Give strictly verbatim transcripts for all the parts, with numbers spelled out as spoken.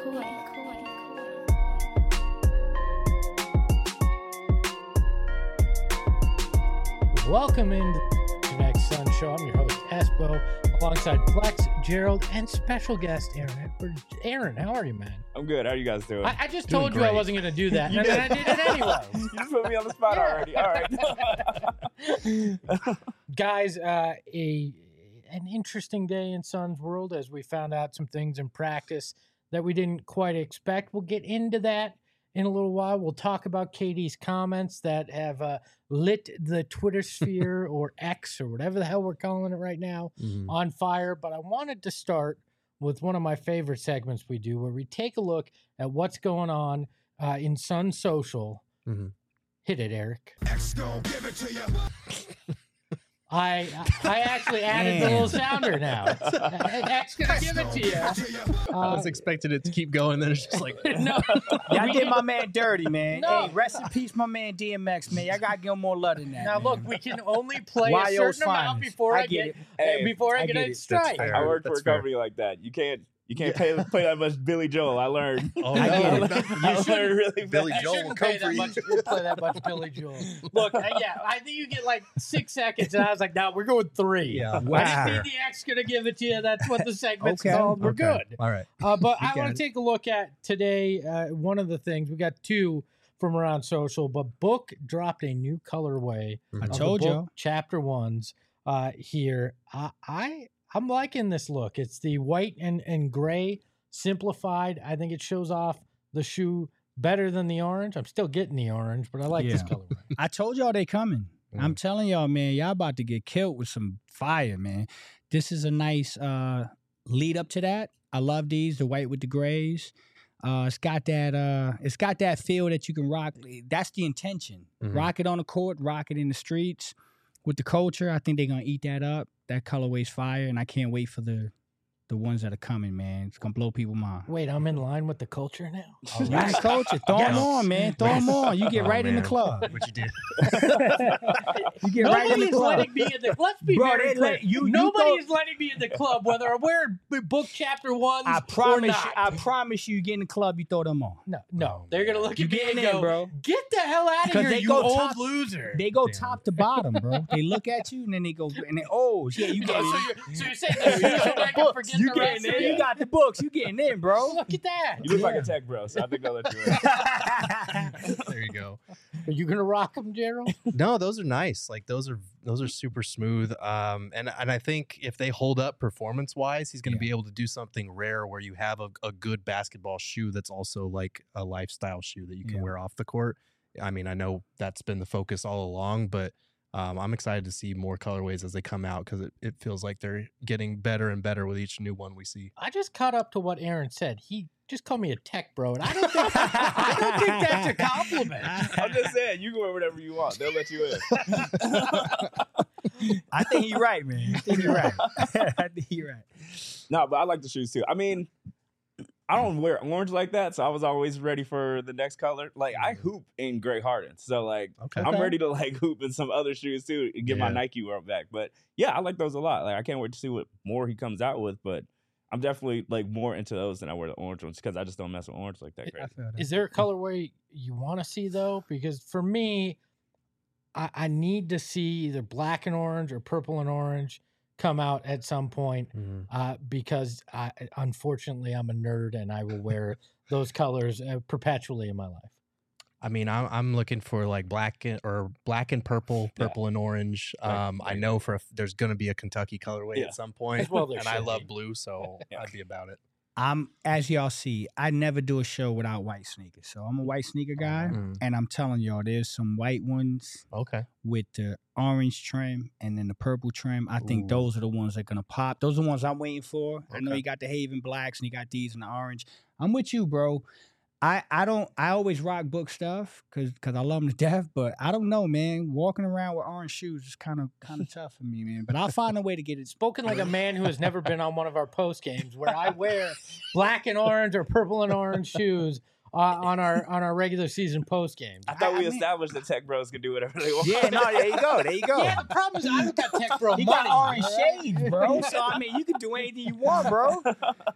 Welcome into the next Sun Show. I'm your host, Espo, alongside Flex, Gerald, and special guest Aaron Edwards. Aaron, how are you, man? I'm good. How are you guys doing? I, I just Doing told you great. I wasn't going to do that, and then I did it anyway. You just put me on the spot already. All right. Guys, uh, a an interesting day in Sun's world as we found out some things in practice that we didn't quite expect. We'll get into that in a little while. We'll talk about K D's comments that have uh, lit the Twitter sphere or X or whatever the hell we're calling it right now Mhm. on fire. But I wanted to start with one of my favorite segments we do where we take a look at what's going on uh, in Sun Social. Mhm. Hit it, Eric. X gon' give it to you. I I actually added the little sounder now. X gonna give it to you. I was expecting it to keep going, then it's just like, no, Y'all we did can- my man dirty, man. No. Hey, rest in peace, my man D M X, man. Y'all gotta give him more love than that. Now man. look, we can only play a Y O's certain amount finest. before I, I get get, it. Hey, before I, I get, get a it. strike. fair. I worked for That's a fair. company like that. You can't you can't pay, play that much Billy Joel. I learned. oh, I no. get I it. learned, I learned really Billy fast. Joel Shouldn't will come pay for that you. much, we'll play that much Billy Joel. Look, uh, yeah, I think you get like six seconds, and I was like, "No, we're going three." Yeah. I Wow. didn't mean the X gonna give it to you. That's what the segment's Okay. called. We're Okay. good. All right. Uh, but I got want it. to take a look at today. Uh, one of the things we got two from around social, but Book dropped a new colorway. I of the told Book y'all. Chapter ones uh, here. I, I I'm liking this look. It's the white and and gray simplified. I think it shows off the shoe better than the orange. I'm still getting the orange, but I like this Yeah. colorway. I told y'all they coming. Mm. I'm telling y'all, man, y'all about to get killed with some fire, man. This is a nice uh, lead up to that. I love these, the white with the grays. Uh, it's got that. Uh, it's got that feel that you can rock. That's the intention. Mhm. Rock it on the court, rock it in the streets. With the culture, I think they're gonna eat that up. That colorway's fire, and I can't wait for the the ones that are coming, man. It's gonna blow people's mind. Wait, I'm in line with the culture now. Oh, You in the culture, throw them Yes. on, man. Throw them on. You get Oh, right in the man. club. What you did. You get right in the Nobody's club. letting me in the. Let's be Bro, very they clear. let- you- you Nobody thought- is letting me in the club, whether I'm wearing b- Book Chapter ones I or promise not. you. I promise you. You get in the club, you throw them on. no, no, Oh, they're gonna man. look You at me getting and in, go, bro. "Get the hell out of 'Cause here, they you go old top- loser!" They go Damn. top to bottom, bro. They look at you and then they go and they oh yeah, you get Oh, so in. you're, so you're saying the shoes so I can forget You the getting rest in. of You it? got the books. You getting in, bro. Look at that. You look like Yeah. a tech bro, so I think I'll let you in. There you go. Are you gonna rock them, Gerald? No, those are nice. Like those are those are super smooth. Um, and and I think if they hold up performance wise, he's going to Yeah. be able to do something rare where you have a, a good basketball shoe that's also like a lifestyle shoe that you can Yeah. wear off the court. I mean, I know that's been the focus all along, but um, I'm excited to see more colorways as they come out because it, it feels like they're getting better and better with each new one we see. I just caught up to what Aaron said. He just called me a tech bro, and I don't think I don't think that's a compliment. I'm just saying, you can wear whatever you want. They'll let you in. I think you're right, man. I think you're right. I think you're right. No, but I like the shoes too. I mean, I don't wear orange like that, so I was always ready for the next color. Like I hoop in Grey Harden, so like Okay. I'm Okay. ready to like hoop in some other shoes too and get my Yeah. Nike world back. But yeah, I like those a lot. Like I can't wait to see what more he comes out with. But I'm definitely like more into those than I wear the orange ones because I just don't mess with orange like that. I Crazy. feel that. Is there a colorway you want to see though? Because for me, I, I need to see either black and orange or purple and orange come out at some point. Mhm. Uh, because I, unfortunately, I'm a nerd and I will wear those colors uh, perpetually in my life. I mean, I'm I'm looking for like black and, or black and purple, Yeah. purple and orange. Right, Um, I right. know for a, f- there's going to be a Kentucky colorway Yeah. at some point, Well, there and I should love be. blue, so Yeah. I'd be about it. I'm as y'all see, I never do a show without white sneakers. So I'm a white sneaker guy, Mm, and I'm telling y'all, there's some white ones okay, with the orange trim and then the purple trim. I think Ooh. those are the ones that are gonna pop. Those are the ones I'm waiting for. I know Okay. you got the Haven blacks and you got these in the orange. I'm with you, bro. I, I don't I always rock book stuff because because I love them to death, but I don't know, man. Walking around with orange shoes is kind of kind of tough for me, man. But I'll find a way to get it. Spoken like a man who has never been on one of our post games where I wear black and orange or purple and orange shoes uh, on our on our regular season post games. I thought I- we I mean- established that tech bros can do whatever they want. Yeah, no, there you go, there you go. Yeah, the problem is I don't got tech bro He money. got orange all right? shades, bro. So I mean, you can do anything you want, bro.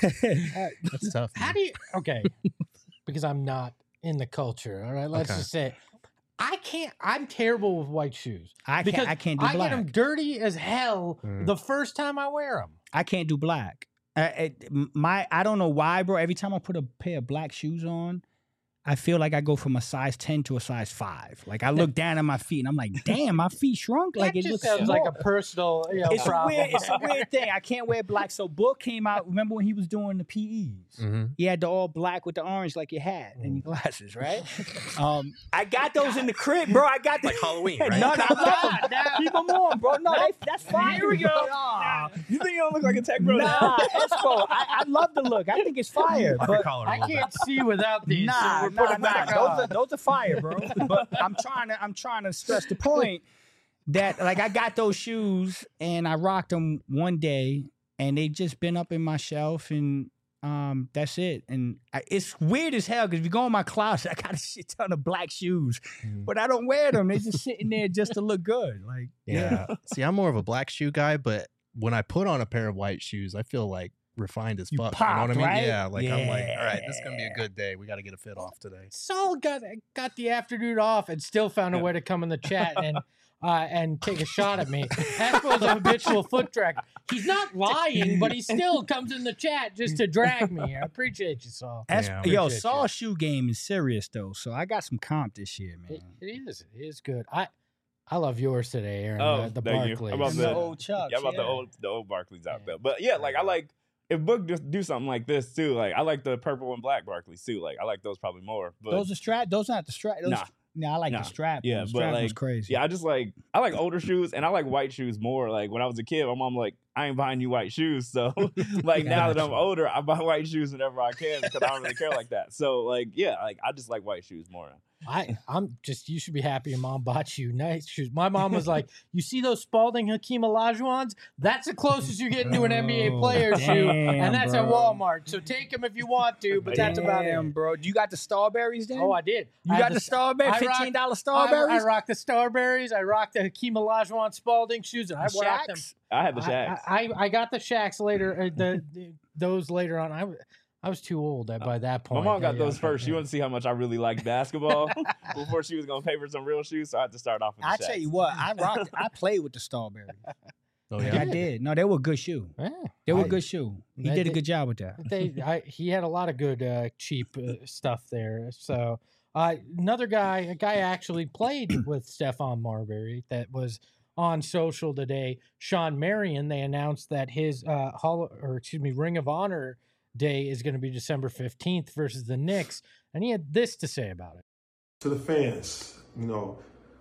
That's tough. How man. do you? Okay, because I'm not in the culture. All right, let's Okay. just say I can't. I'm terrible with white shoes. I because can't. I can't do I black. get them dirty as hell Mm. the first time I wear them. I can't do black. Uh, it, my I don't know why, bro. Every time I put a pair of black shoes on, I feel like I go from a size ten to a size five. Like I look down at my feet and I'm like, damn, my feet shrunk. Like That it just looks sounds small. like a personal, you know, It's a problem. weird. It's a weird thing. I can't wear black. So Book came out. Remember when he was doing the P Es? Mhm. He had the all black with the orange, like your hat and your glasses, right? um, I got those in the crib, bro. I got the, Like Halloween, right? No, no, no. Keep them on, bro. No, they, that's fine. Here we go. Nah, You think you don't look like a tech bro? nah Espo. I, I love the look. I think it's fire. Up your But collar a I little bit. can't see without these. so nah, we're nah, putting nah. back Those on. are those are fire, bro. But I'm trying to I'm trying to stress the point that like I got those shoes and I rocked them one day and they just been up in my shelf and um that's it. And I, it's weird as hell because if you go in my closet, I got a shit ton of black shoes, Mhm. but I don't wear them. They're just sitting there just to look good. Like Yeah. See, I'm more of a black shoe guy, but when I put on a pair of white shoes, I feel like refined as You fuck. you know what I popped, mean? right? Yeah. Like I'm like, all right, this is gonna be a Yeah. good day. We got to get a fit off today. Saul got got the afternoon off and still found a way to come in the chat and uh, and take a shot at me. Espo's a habitual foot tracker. He's not lying, but he still comes in the chat just to drag me. I appreciate you, Saul. that's, Yeah, yo, appreciate Saul's you. shoe game is serious though. So I got some comp this year, man. It, it is. It is good. I I love yours today, Aaron. Oh, the, the thank you. Barclays. I'm about And to- the old Chucks. Yeah, about yeah. the old the old Barclays out Yeah. there. But yeah, like I like if Book just do something like this too. Like I like the purple and black Barclays too. Like I like those probably more. But Those are strap. Those not the strap. Those, Nah. nah, I like Nah. the strap. Yeah, the but, strap was like, crazy. yeah, I just like I like older shoes and I like white shoes more. Like when I was a kid, my mom like I ain't buying you white shoes. So like now that I'm Gotcha. older, I buy white shoes whenever I can because I don't really care like that. So like yeah, like I just like white shoes more. I, I'm just, you should be happy your mom bought you nice shoes. My mom was like, you see those Spalding Hakeem Olajuwons? That's the closest you're getting to an N B A Oh, player shoe. damn, And that's at bro. Walmart. So take them if you want to, but that's about Damn, it. bro. You got the Starberries then? Oh, I did. you I got had the s- Starberries? I rock- fifteen dollar I, Starberries? I rocked the Starberries. I rocked the Hakeem Olajuwon Spalding shoes, and I The rocked them. Shaqs? I had the I, Shaqs. I, I I got the Shaqs later. Uh, the, the those later on. I was I was too old at, by that My point. mom got Yeah, those yeah, first. She yeah. wanted to see how much I really liked basketball before she was gonna pay for some real shoes. So I had to start off with the I Shaqs. tell you what, I rocked. I played with the Starberries. Oh Like, yeah. I did. No, they were a good shoe. Yeah, They were I- a good shoe. He They- did a they- good job with that. they I, he had a lot of good uh, cheap uh, stuff there. So uh, another guy, a guy actually played with Stephon Marbury that was on social today. Sean Marion. They announced that his uh, hall or excuse me Ring of Honor day is going to be December fifteenth versus the Knicks, and he had this to say about it. To the fans, you know,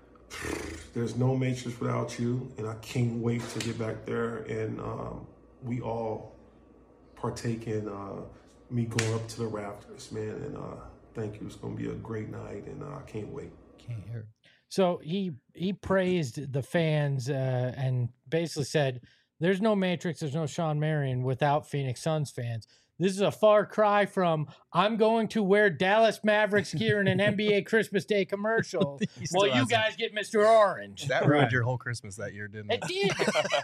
there's no Matrix without you, and I can't wait to get back there and um, we all partake in uh, me going up to the rafters, man. And uh, thank you. It's going to be a great night, and uh, I can't wait. Can't hear it. So he he praised the fans uh, and basically said, "There's no Matrix, there's no Sean Marion without Phoenix Suns fans." This is a far cry from "I'm going to wear Dallas Mavericks gear in an N B A Christmas Day commercial." He still Well, you hasn't. guys get Mister Orange. That ruined your whole Christmas that year, didn't It it? did.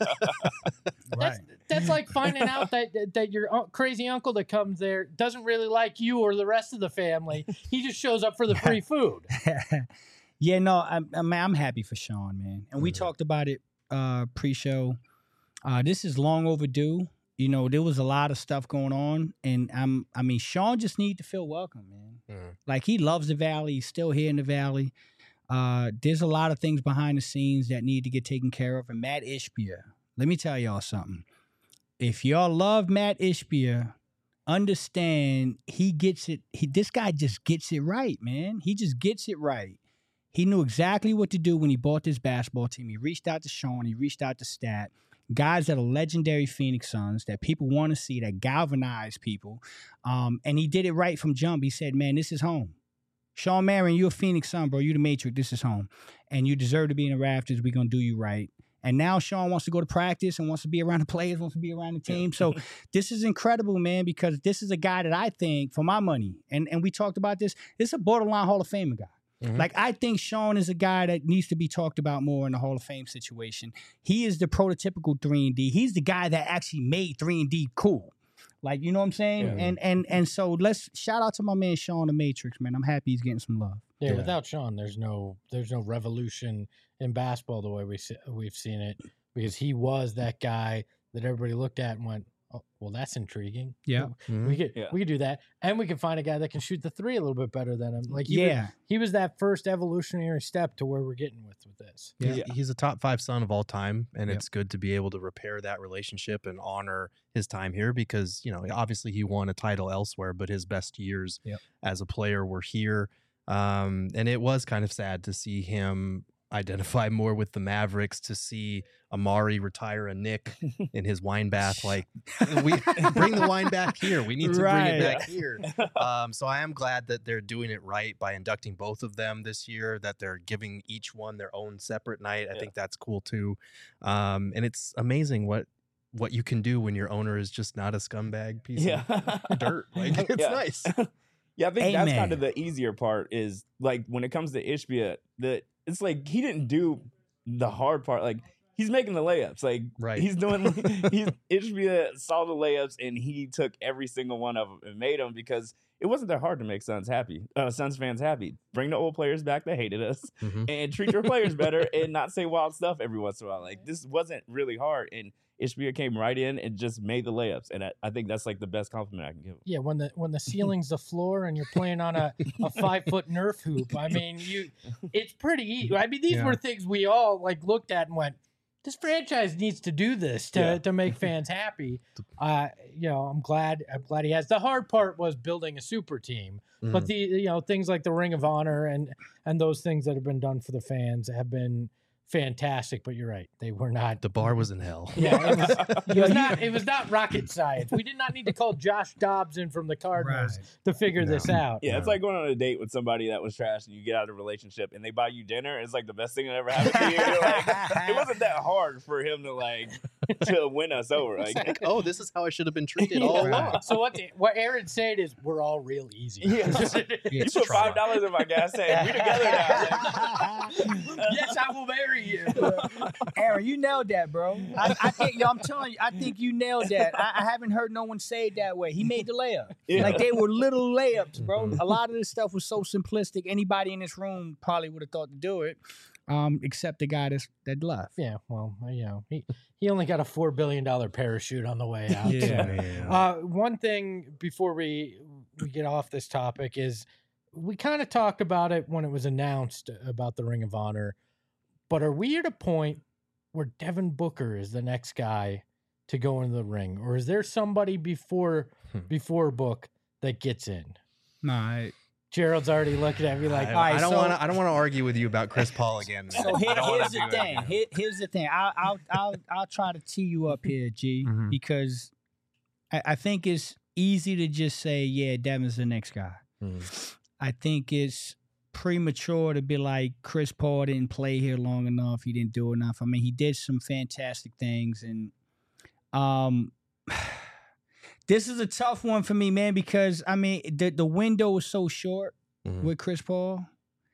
Right. That's, that's like finding out that that your un- crazy uncle that comes there doesn't really like you or the rest of the family. He just shows up for the free food. Yeah, no, I'm, I'm I'm happy for Sean, man. And we Mhm. talked about it uh, pre-show. Uh, this is long overdue. You know, there was a lot of stuff going on, and I'm I mean, Sean just need to feel welcome, man. Mhm. Like he loves the Valley. He's still here in the Valley. Uh, there's a lot of things behind the scenes that need to get taken care of. And Matt Ishbia, let me tell y'all something. If y'all love Matt Ishbia, understand he gets it. He this guy just gets it right, man. He just gets it right. He knew exactly what to do when he bought this basketball team. He reached out to Sean. He reached out to Stat. Guys that are legendary Phoenix Suns that people want to see, that galvanize people. Um, and he did it right from jump. He said, man, this is home. Sean Marion, you're a Phoenix Sun, bro. You the Matrix. This is home. And you deserve to be in the rafters. We're going to do you right. And now Sean wants to go to practice and wants to be around the players, wants to be around the team. So this is incredible, man, because this is a guy that I think, for my money, and, and we talked about this, this is a borderline Hall of Famer guy. Mhm. Like, I think Sean is a guy that needs to be talked about more in the Hall of Fame situation. He is the prototypical three and D. He's the guy that actually made three and D cool. Like, you know what I'm saying? Yeah. And and and so let's shout out to my man Sean the Matrix, man. I'm happy he's getting some love. Yeah, Yeah. without Sean, there's no there's no revolution in basketball the way we se- we've seen it, because he was that guy that everybody looked at and went, "Oh, well, that's intriguing. Yeah. Mhm. we could Yeah. we could do that, and we could find a guy that can shoot the three a little bit better than him. Like, he was, Yeah. he was that first evolutionary step to where we're getting with with this. Yeah. He's, he's a top five son of all time, and Yep. it's good to be able to repair that relationship and honor his time here because, you know, obviously he won a title elsewhere, but his best years Yep. as a player were here. Um, and it was kind of sad to see him identify more with the Mavericks, to see Amari retire a Nick in his wine bath. Like, we bring the wine back here. We need to bring Right. it back here. Um, so I am glad that they're doing it right by inducting both of them this year, that they're giving each one their own separate night. I Yeah. think that's cool too. Um, and it's amazing what what you can do when your owner is just not a scumbag piece Yeah. of dirt. Like, it's Yeah. nice. Yeah, I think that's kind Amen. of the easier part is like when it comes to Ishbia, the it's like he didn't do the hard part. Like he's making the layups. Like Right. he's doing he's Ishbia saw the layups and he took every single one of them and made them because it wasn't that hard to make Suns happy. Uh, Suns fans happy. Bring the old players back that hated us Mhm. and treat your players better and not say wild stuff every once in a while. Like this wasn't really hard and Ishbia came right in and just made the layups. And I, I think that's like the best compliment I can give him. Yeah, when the when the ceiling's the floor and you're playing on a, a five foot Nerf hoop, I mean, you, it's pretty easy. I mean, these Yeah. were things we all like looked at and went, "This franchise needs to do this to, Yeah. to make fans happy." Uh, you know, I'm glad I'm glad he has. The hard part was building a super team, but Mhm. the you know things like the Ring of Honor and and those things that have been done for the fans have been fantastic. But you're right, they were not. The bar was in hell. Yeah, it was, it Yo, was you- not. It was not rocket science. We did not need to call Josh Dobbs in from the Cardinals Right. to figure this No. out. Yeah, it's Yeah. like going on a date with somebody that was trash and you get out of a relationship and they buy you dinner. It's like the best thing that ever happened to you. You're like, it wasn't that hard for him to like to win us over. It's Like, like, oh, this is how I should have been treated Yeah. all Right. along. So what? The, what Aaron's saying is we're all real easy. Yeah. Yeah, you put trauma. five dollars in my gas tank. We together now. Yes, I will marry you. Aaron, you nailed that, bro. I, I think, yo, I'm telling you, I think you nailed that. I, I haven't heard no one say it that way. He made the layup. Yeah. Like they were little layups, bro. Mhm. A lot of this stuff was so simplistic. Anybody in this room probably would have thought to do it, um, except the guy that's, that left. Yeah, well, you know, he he only got a four billion dollar parachute on the way out. so. Yeah. Uh, one thing before we we get off this topic is we kind of talked about it when it was announced about the Ring of Honor, but are we at a point where Devin Booker is the next guy to go into the ring, or is there somebody before Hmm. before Book that gets in? Nah, I- Gerald's already looking at me like, I, All right, I don't so- want to. I don't want to argue with you about Chris Paul again. So I here, don't wanna here's do the it thing. again. Here, here's the thing. I'll, I'll, I'll, I'll try to tee you up here, G, Mhm. because I, I think it's easy to just say, yeah, Devin's the next guy. Mm. I think it's premature to be like Chris Paul didn't play here long enough. He didn't do enough. I mean, he did some fantastic things, and um, this is a tough one for me, man, because I mean the the window is so short Mhm. with Chris Paul,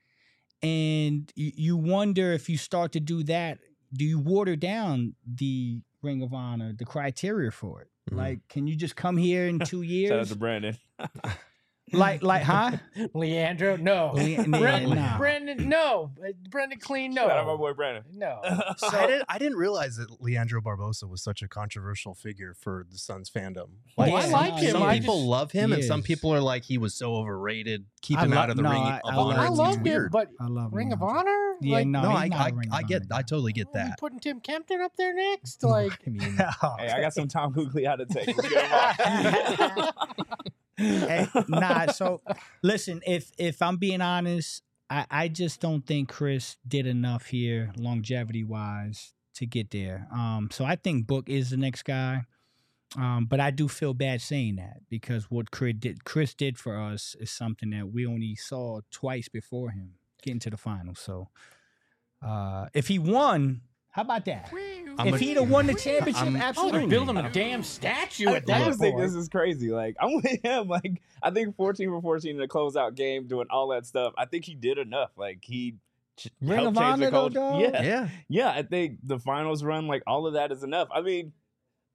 and you, you wonder if you start to do that, do you water down the Ring of Honor, the criteria for it? Mhm. Like, can you just come here in two Shout out years? to Brandon. like, like, huh? Leandro, no. Le- yeah, Brendan, nah. Brendan, no. Uh, Brendan Clean, no. Shout out my boy Brandon. No. I didn't. I didn't realize that Leandro Barbosa was such a controversial figure for the Suns fandom. Oh, I like him. Some I people just- love him, He and some is. people are like, he was so overrated. Keep I him lo- out of the no, ring I- of I honor. love I It's love him, weird. but I love Ring of Leandro. Honor? Yeah, Like, no, no, he's I, not a I, Ring of I get. Honor I guy. totally get are we that. putting Tim Kempton up there next? Like, I mean, Hey, I got some Tom Googly out to take. Let's get him on. Hey, nah, so listen, if if I'm being honest, I, I just don't think Chris did enough here longevity wise to get there. Um, so I think Book is the next guy. Um, but I do feel bad saying that because what Chris did, Chris did for us is something that we only saw twice before him getting to the finals. So uh, if he won, how about that? I'm if a- he'd have won the championship, I'm- oh, absolutely. they're building a damn statue I, at I that just think point. this is crazy. Like I'm with him. Like I think fourteen for fourteen in the closeout game, doing all that stuff. I think he did enough. Like he ch- Ring helped of change the Honor, though, culture. dog? Yeah, yeah. yeah. I think the finals run, like all of that, is enough. I mean,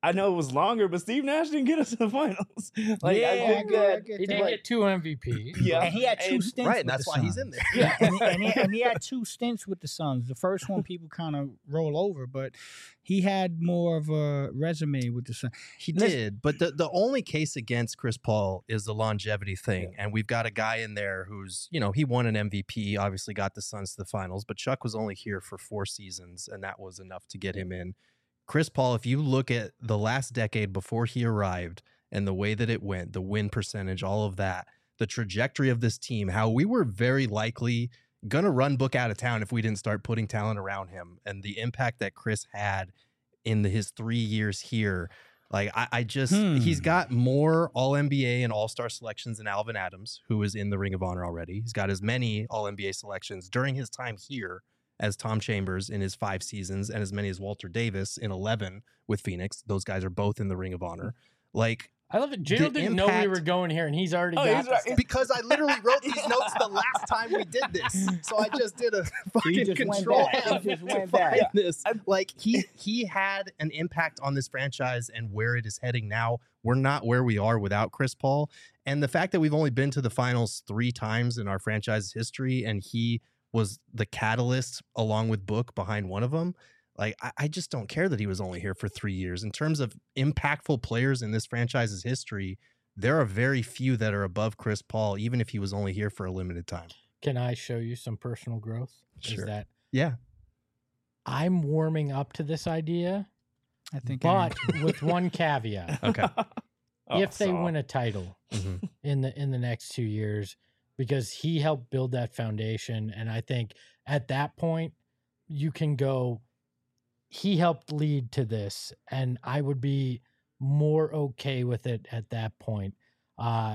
I know it was longer, but Steve Nash didn't get us to the finals. Like, Yeah, I I think get- I that, get He did that. get two M V Ps. yeah, And he had two and- stints. Right, with and that's the why he's in Suns. there. Yeah, and, he, and, he, and he had two stints with the Suns. The first one people kind of roll over, but he had more of a resume with the Suns. He Listen- did, but the, the only case against Chris Paul is the longevity thing. And we've got a guy in there who's, you know, he won an M V P, obviously got the Suns to the finals, but Chuck was only here for four seasons, and that was enough to get him in. Chris Paul, if you look at the last decade before he arrived and the way that it went, the win percentage, all of that, the trajectory of this team, how we were very likely going to run Book out of town if we didn't start putting talent around him, and the impact that Chris had in the, his three years here. Like, I, I just, Hmm. he's got more All N B A and All Star selections than Alvin Adams, who is in the Ring of Honor already. He's got as many All N B A selections during his time here as Tom Chambers in his five seasons, and as many as Walter Davis in eleven with Phoenix. Those guys are both in the Ring of Honor. Like, I love it. Gerald The didn't know we impact- were going here, and he's already Oh, got he's this. right. because I literally wrote these notes the last time we did this, so I just did a fucking just went control back. F He just went to find back. this. Like, he he had an impact on this franchise and where it is heading now. We're not where we are without Chris Paul, and the fact that we've only been to the finals three times in our franchise's history, and he was the catalyst along with Book behind one of them. Like, I, I just don't care that he was only here for three years. In terms of impactful players in this franchise's history, there are very few that are above Chris Paul, even if he was only here for a limited time. Can I show you some personal growth? Sure. Is that Yeah. I'm warming up to this idea, I think. I but with one caveat. Okay. Oh, if they Saul. win a title Mhm. in the in the next two years, because he helped build that foundation, and I think at that point you can go, he helped lead to this, and I would be more okay with it at that point. Uh,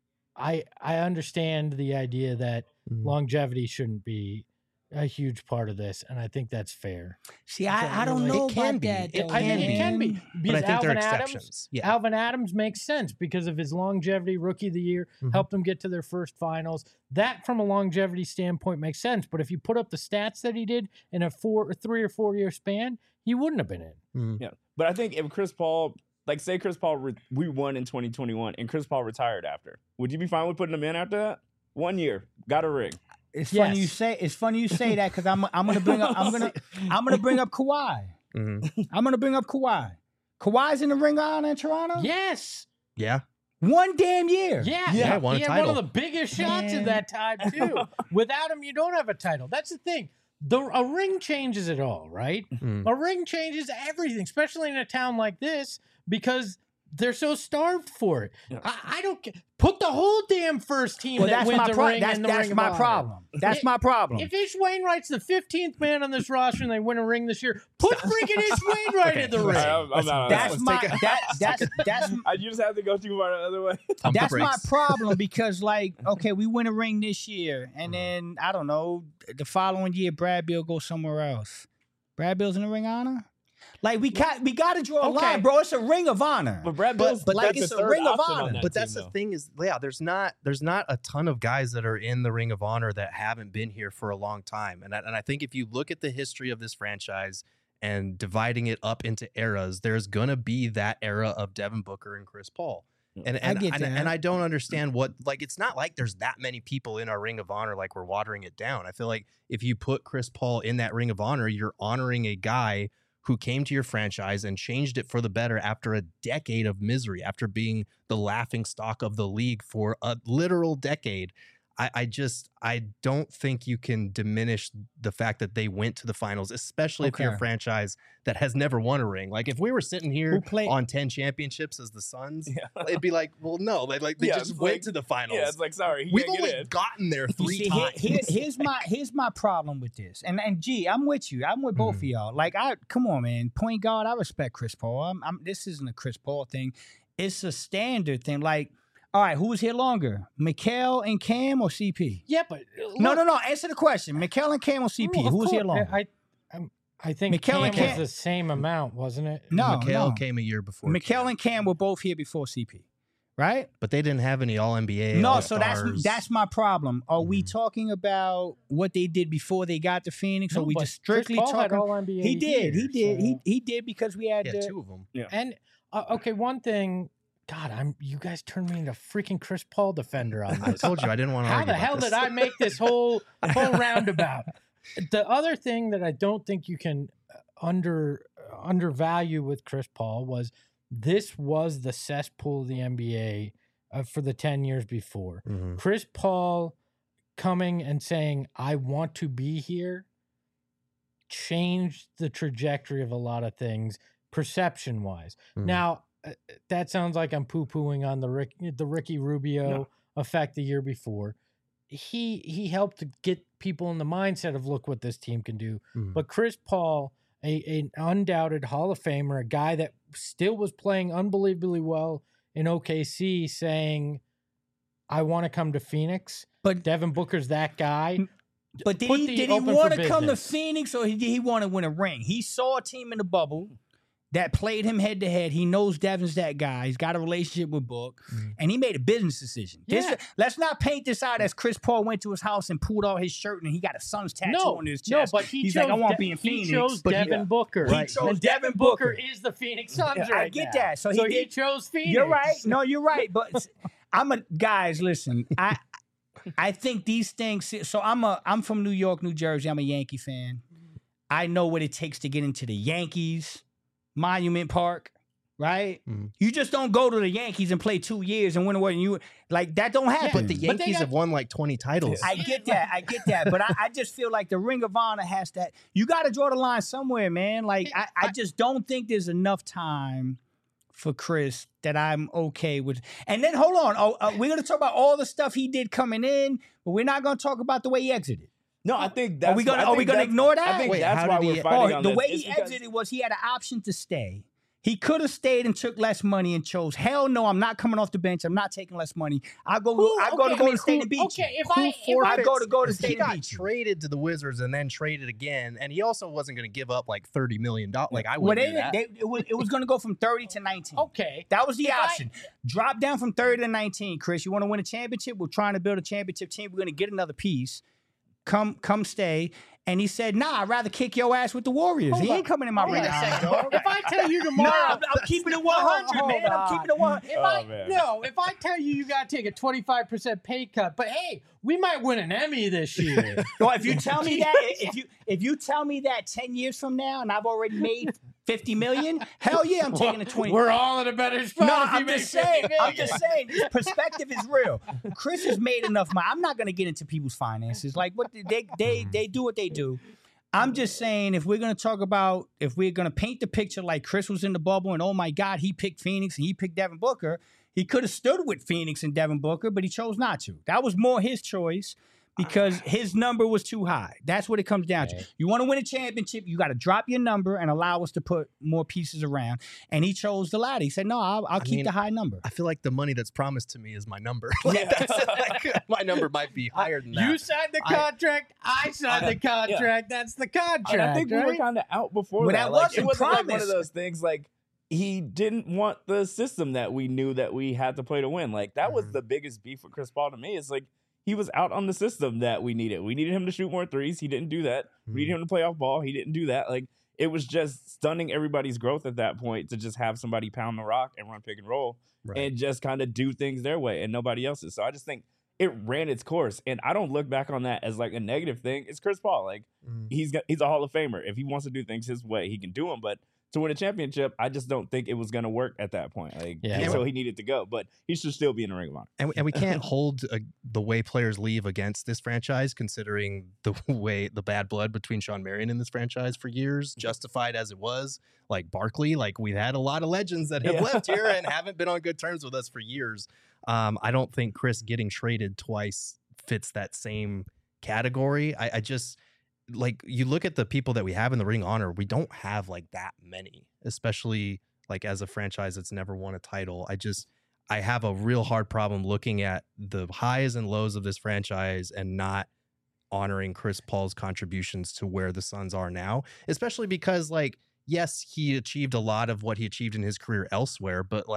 I I understand the idea that Mhm. longevity shouldn't be a huge part of this, and I think that's fair. See, I, I don't It know can about be. that. It though, I think it can be man. But I because think Alvin there are Adams. exceptions. Yeah. Alvin Adams makes sense because of his longevity, rookie of the year, Mhm. helped them get to their first finals. That, from a longevity standpoint, makes sense. But if you put up the stats that he did in a four, or three or four year span, he wouldn't have been in. Mhm. Yeah, but I think if Chris Paul, like, say Chris Paul, re- we won in twenty twenty-one, and Chris Paul retired after, would you be fine with putting him in after that? One year, got a ring. It's funny you Yes. say. It's funny you say that because I'm. I'm gonna bring up. I'm gonna. I'm gonna bring up Kawhi. Mhm. I'm gonna bring up Kawhi. Kawhi's in the Ring of Honor in Toronto. Yes. Yeah. One damn year. Yeah. Yeah, won a he had title. one of the biggest shots Man. at that time, too. Without him, you don't have a title. That's the thing. The, a ring changes it all, right? Mhm. A ring changes everything, especially in a town like this, because they're so starved for it. Yeah. I, I don't ca- put the whole damn first team Well, that that's wins my a problem. ring That's, in the that's Ring of my Honor. problem. That's It- my problem. If Ish Wainwright's the fifteenth man on this roster and they win a ring this year, put freaking Ish Wainwright Okay, in the listen. ring. I'm- I'm not on that's that. my. take a- That, that's that's I, you just have to go too far the other way. Pump the that's my brakes. problem because, like, okay, we win a ring this year, and then I don't know, the following year, Brad Bill goes somewhere else. Brad Bill's in the Ring of Honor. Like, we got we got to draw a Okay. line, bro. It's a Ring of Honor. But Brad But- Bill's but like it's the a third Ring of option on Honor. that But team, that's the though. thing is, yeah, there's not there's not a ton of guys that are in the Ring of Honor that haven't been here for a long time. And I, and I think if you look at the history of this franchise and dividing it up into eras, there's gonna be that era of Devin Booker and Chris Paul. And and, get and, that. and I don't understand what, like, it's not like there's that many people in our Ring of Honor like we're watering it down. I feel like if you put Chris Paul in that Ring of Honor, you're honoring a guy who came to your franchise and changed it for the better after a decade of misery, after being the laughing stock of the league for a literal decade. I, I just, I don't think you can diminish the fact that they went to the finals, especially if you're a Okay. franchise that has never won a ring. Like, if we were sitting here Who played? on ten championships as the Suns, Yeah. it'd be like, well, no, like, like they Yeah, just it's went like- to the finals. Yeah, it's like, sorry, he We've can't only get in. gotten there You three see, here- times. here- here's my here's my problem with this, and and G, I'm with you. I'm with both Mhm. of y'all. Like, I come on, man. Point guard, I respect Chris Paul. I'm, I'm, this isn't a Chris Paul thing. It's a standard thing. Like, all right, who was here longer, Mikal and Cam or C P? Yeah, but No, look, no, no. Answer the question. Mikal and Cam or C P? well, of Who was here course, longer? I, I, I think Mikal Cam and was Cam- the same amount, wasn't it? No, Mikal no. came a year before. Mikal Cam. and Cam were both here before C P. right? But they didn't have any All N B A. No, so that's All-Stars. that's my problem. Are we Mhm. talking about what they did before they got to Phoenix? No, or we but just strictly Chris Paul had talking? All N B A He did, he years, did, he so- he did because we had yeah, the, two of them. And uh, okay, one thing. God, I'm. You guys turned me into a freaking Chris Paul defender on I this. told you I didn't want to How argue the about hell this. did I make this whole whole roundabout? The other thing that I don't think you can under undervalue with Chris Paul was this was the cesspool of the N B A uh, for the ten years before. Mhm. Chris Paul coming and saying, I want to be here, changed the trajectory of a lot of things perception wise. Mhm. Now, uh, that sounds like I'm poo pooing on the Rick, the Ricky Rubio No. effect the year before. He he helped to get people in the mindset of look what this team can do. Mhm. But Chris Paul, a an undoubted Hall of Famer, a guy that still was playing unbelievably well in O K C, saying, "I want to come to Phoenix." but Devin Booker's that guy. but did put he the did he open want for to come to business. Phoenix or did he want to win a ring? He saw a team in the bubble that played him head to head. He knows Devin's that guy. He's got a relationship with Book, Mhm. and he made a business decision. This- Yeah. let's not paint this out as Chris Paul went to his house and pulled out his shirt and he got a Suns tattoo No, on his no, chest. but he He's chose like, I want to De- be in he Phoenix. chose but he- Devin Booker. He Right. chose and Devin Devin Booker. Booker. is the Phoenix Suns I right get now. that. So he so he did- chose Phoenix. You're right. No, you're right. But I'm a guys. Listen, I I think these things. So I'm a I'm from New York, New Jersey. I'm a Yankee fan. I know what it takes to get into the Yankees Monument Park. Right? Mhm. You just don't go to the Yankees and play two years and win away. And you like that don't happen. But the But they Yankees got- have won like twenty titles. I get that. I get that. But I, I just feel like the Ring of Honor has that. You got to draw the line somewhere, man. Like, I, I just don't think there's enough time for Chris that I'm okay with. And then, hold on. Oh, uh, we're going to talk about all the stuff he did coming in, but we're not going to talk about the way he exited. No, I think that's Are we going I to Are we think going to that's- ignore that? I think Wait, that's how why did we're he- fighting Oh, on the this. way It's he because- exited was he had an option to stay. He could have stayed and took less money and chose, hell no, I'm not coming off the bench. I'm not taking less money. I go, Who- I go okay, to I go mean, to State who- and Beach. Okay, if Who I if I I go to go to He State and got Beach. traded to the Wizards and then traded again, and he also wasn't going to give up like thirty million dollars. Like I Well, wouldn't they, do that. they, it was, it was going to go from thirty to nineteen. okay, That was the If I- option. Drop down from thirty to nineteen, Chris. You want to win a championship? We're trying to build a championship team. We're going to get another piece. Come, come stay. And he said, nah, I'd rather kick your ass with the Warriors. Hold he on. ain't coming in my Hold ring. on a second. If I tell you tomorrow, Nah, I'm, I'm keeping it one hundred, Hold man. I'm on. keeping it one hundred. If Oh, I man. no, if I tell you you got to take a twenty-five percent pay cut, but hey, we might win an Emmy this year. Well, if you tell me that, if you if you tell me that ten years from now, and I've already made fifty million, hell yeah, I'm taking a twenty. We're all in a better spot. No, if you I'm make just saying. fifty I'm million. just saying. This perspective is real. Chris has made enough money. I'm not going to get into people's finances. Like what they they they do what they do. I'm just saying if we're going to talk about if we're going to paint the picture like Chris was in the bubble and oh my God he picked Phoenix and he picked Devin Booker. He could have stood with Phoenix and Devin Booker, but he chose not to. That was more his choice. Because his number was too high. That's what it comes down to. Okay. You want to win a championship, you got to drop your number and allow us to put more pieces around. And he chose the latter. He said, "No, I'll, I'll I keep mean, the high number." I feel like the money that's promised to me is my number. Like, that's, like, my number might be higher than that. You signed the I- contract. I, signed I- the contract. That's the contract. And I think we were right? kind of out before Well, that. that Like, wasn't it wasn't like one promised. of those things like he didn't want the system that we knew that we had to play to win. Like that was Mhm. the biggest beef with Chris Paul to me. It's like he was out on the system that we needed. We needed him to shoot more threes. He didn't do that. We needed him to play off ball. He didn't do that. Like it was just stunning everybody's growth at that point to just have somebody pound the rock and run pick and roll Right. and just kind of do things their way and nobody else's. So I just think it ran its course. And I don't look back on that as like a negative thing. It's Chris Paul. Like Mm. he's got he's a Hall of Famer. If he wants to do things his way, he can do them. But to win a championship, I just don't think it was going to work at that point. Like, Yeah. and so he needed to go, but he should still be in the Ring of Honor. And, and we can't hold uh the way players leave against this franchise, considering the way the bad blood between Sean Marion and this franchise for years, justified as it was. Like Barkley, like we've had a lot of legends that have Yeah. left here and haven't been on good terms with us for years. Um, I don't think Chris getting traded twice fits that same category. I, I just like you look at the people that we have in the Ring of Honor, we don't have like that many, especially like as a franchise that's never won a title. I just I have a real hard problem looking at the highs and lows of this franchise and not honoring Chris Paul's contributions to where the Suns are now, especially because like, yes, he achieved a lot of what he achieved in his career elsewhere, but like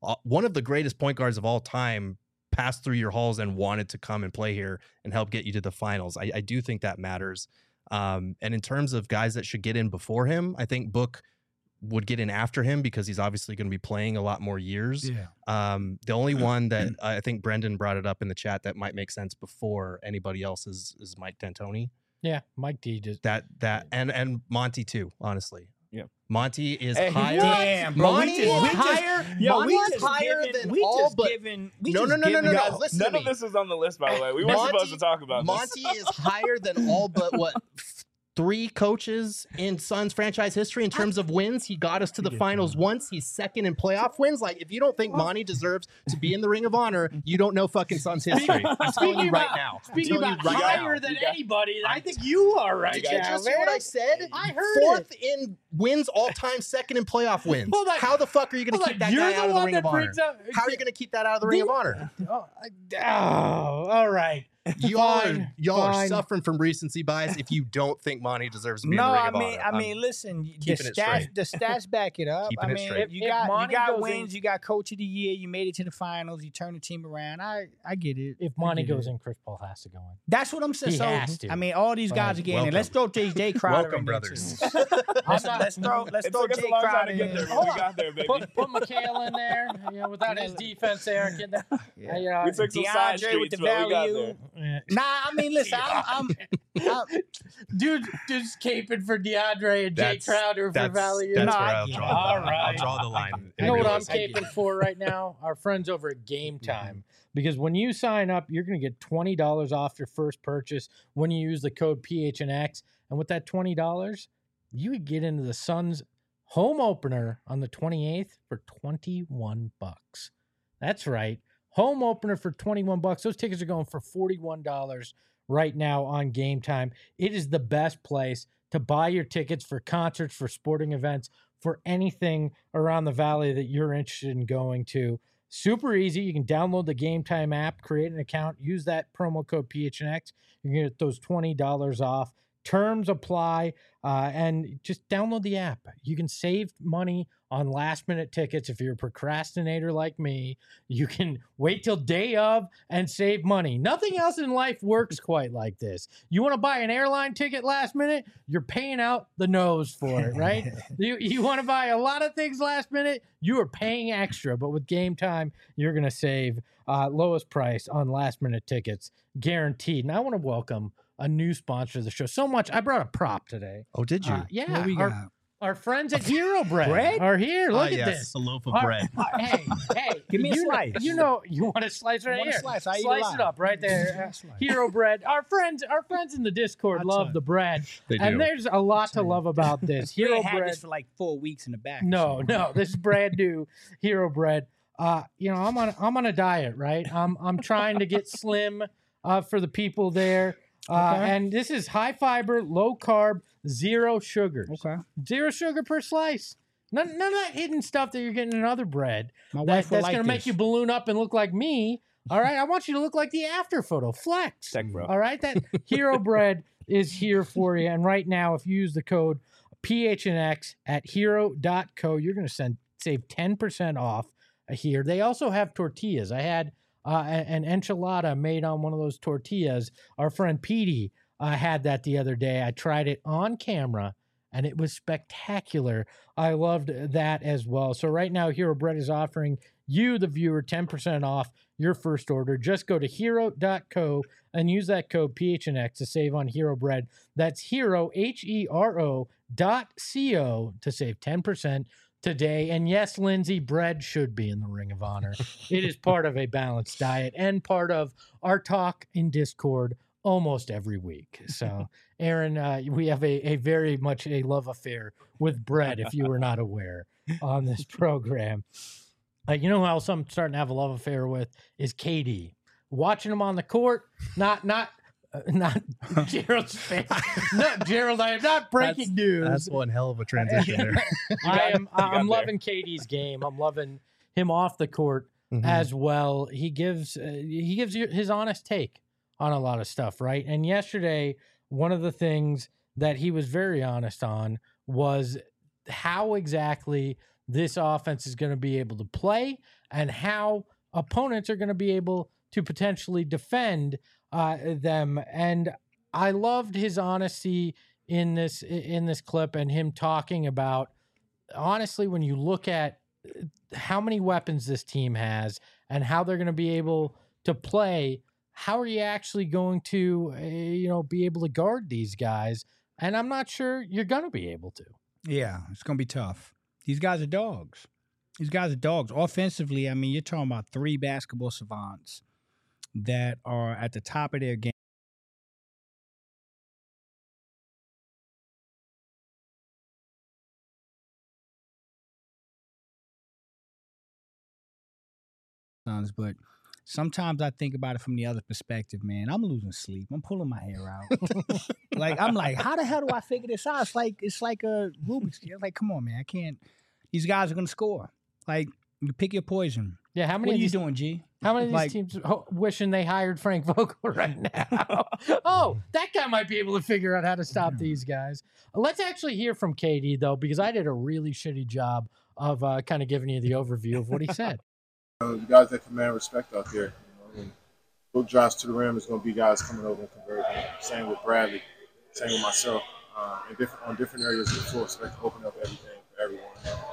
uh, one of the greatest point guards of all time passed through your halls and wanted to come and play here and help get you to the finals. I, I do think that matters. Um, and in terms of guys that should get in before him, I think Book would get in after him because he's obviously going to be playing a lot more years. Yeah. Um, the only one that I think Brendan brought it up in the chat that might make sense before anybody else is, is Mike D'Antoni. Yeah, Mike D just That that and and Monty too, honestly. Yeah. Monty is Hey, higher. Damn, bro. Monty we just, is we just, higher. Yo, we Monty's just higher giving, than we all just but giving, we No, just no, no, no, giving no, guys- no. Listen None to of me. this was on the list, by the way. We weren't Monty- supposed to talk about Monty this. is higher than all but what three coaches in Suns franchise history in terms of wins. He got us to the finals once. He's second in playoff wins. Like, if you don't think Monty deserves to be in the Ring of Honor, you don't know fucking Suns history. I'm telling you right now. I'm Speaking telling you about right higher now. than You got- anybody, I think you are right Did now, you just man. hear what I said? I heard Fourth it. in wins all time, second in playoff wins. Hold on. How the fuck are you going to Hold keep on, that you're guy the out of the one Ring that of Honor? brings up- How are you going to keep that out of the Ring of Honor? Oh, I- oh, all right. Y'all are, Fine, y'all are fine. suffering from recency bias if you don't think Monty deserves to be No, in the Ring I of mean, Honor. I I'm- mean, listen, the keeping it stats, straight. the stats back it up. Keeping I it mean, straight. you If got Monty you got goes wins, in- you got coach of the year, you made it to the finals, you turned the team around. I, I get it. If I Monty get goes it. in, Chris Paul has to go in. That's what I'm saying. He So, has to. I mean, all these guys are getting in. Welcome. Let's throw J J Crowder Welcome, in there, brothers. too. let's, let's throw let's It throw took us Jay a long time Crowder to get in there, there. but we got there, baby. Put, put McHale in there. You know, without his defense there, get that. Yeah. You know, We took some side DeAndre with streets, the but we got value. there. yeah. Nah, I mean, listen, I'm, I'm, I'm dude, just caping for DeAndre and Jay That's- Crowder for That's, value. that's No, where I I'll get draw, it. the, All I'll right. draw the line. You in know what I'm realism. caping for right now? Our friends over at Game Time. Because when you sign up, you're going to get twenty dollars off your first purchase when you use the code P H N X. And with that twenty dollars, you would get into the Suns home opener on the twenty-eighth for twenty-one bucks. That's right. Home opener for twenty-one bucks. Those tickets are going for forty-one dollars right now on Game Time. It is the best place to buy your tickets for concerts, for sporting events, for anything around the valley that you're interested in going to. Super easy. You can download the Game Time app, create an account, use that promo code P H N X. You're going to get those twenty dollars off. Terms apply, uh, and just download the app. You can save money on last minute tickets. If you're a procrastinator like me, you can wait till day of and save money. Nothing else in life works quite like this. You want to buy an airline ticket last minute, you're paying out the nose for it, right? you you want to buy a lot of things last minute, you are paying extra. But with Game Time, you're going to save uh, lowest price on last minute tickets, guaranteed. And I want to welcome a new sponsor of the show. So much. I brought a prop today. Oh, did you? Uh, yeah. What we our, got? our friends at Hero Bread, Bread? are here. Look Ah, at yes, this. a loaf of Our- bread. uh, hey, hey. Give me a you know- slice. you know, you want a slice right want a here. slice. I eat a Slice lot. it up right there. Yeah, Uh, slice. Hero Bread. Our friends, our friends in the Discord I'll love tell the bread. They And do. there's a lot to tell you. love about this. We Hero ain't had Bread. this for like four weeks in the back. or No, something. no, this is brand new Hero Bread. Uh, you know, I'm on I'm on a diet, right? I'm I'm trying to get slim uh, for the people there. Uh, Okay. And this is high fiber, low carb, zero sugars. Okay. Zero sugar per slice. None, none of that hidden stuff that you're getting in other bread. My That, wife will that's like going to make this. you balloon up and look like me. All right. I want you to look like the after photo. Flex. Tech bro. All right. That Hero Bread is here for you. And right now, if you use the code P H N X at hero dot co, you're going to send save ten percent off here. They also have tortillas. I had uh, a- an enchilada made on one of those tortillas. Our friend Petey uh, had that the other day. I tried it on camera and it was spectacular. I loved that as well. So right now, Hero Bread is offering you, the viewer, ten percent off your first order. Just go to hero dot co and use that code P H N X to save on Hero Bread. That's Hero, H E R O dot C O to save ten percent today. And yes, Lindsay, bread should be in the Ring of Honor. It is part of a balanced diet and part of our talk in Discord almost every week. So, Aaron, uh, we have a, a very much a love affair with bread, if you were not aware, on this program. Uh, you know who else I'm starting to have a love affair with is K D. Watching him on the court, not not uh, not Gerald's face. No, Gerald, I am not breaking news. That's one hell of a transition there. I am. got I'm there. loving K D's game. I'm loving him off the court Mhm. as well. He gives uh, he gives you his honest take on a lot of stuff, right? And yesterday, one of the things that he was very honest on was how exactly this offense is going to be able to play and how opponents are going to be able to potentially defend uh, them. And I loved his honesty in this in this clip and him talking about, honestly, when you look at how many weapons this team has and how they're going to be able to play, how are you actually going to, uh, you know, be able to guard these guys? And I'm not sure you're going to be able to. Yeah, it's going to be tough. These guys are dogs. These guys are dogs. Offensively, I mean, you're talking about three basketball savants that are at the top of their game. But sometimes I think about it from the other perspective, man. I'm losing sleep. I'm pulling my hair out. Like, I'm like, how the hell do I figure this out? It's like it's like a Rubik's Cube. Like, come on, man. I can't. These guys are gonna score. Like, you pick your poison. Yeah, how many What are of you these, doing, G? how many of these Like- teams ho- wishing they hired Frank Vogel right now? Oh, that guy might be able to figure out how to stop these guys. Let's actually hear from K D, though, because I did a really shitty job of uh, kind of giving you the overview of what he said. Uh, the guys that command respect out there. You know, when Book drives to the rim, it's going to be guys coming over and converting. Same with Bradley. Same with myself. Uh, and different, on different areas of the floor, expect to open up everything for everyone.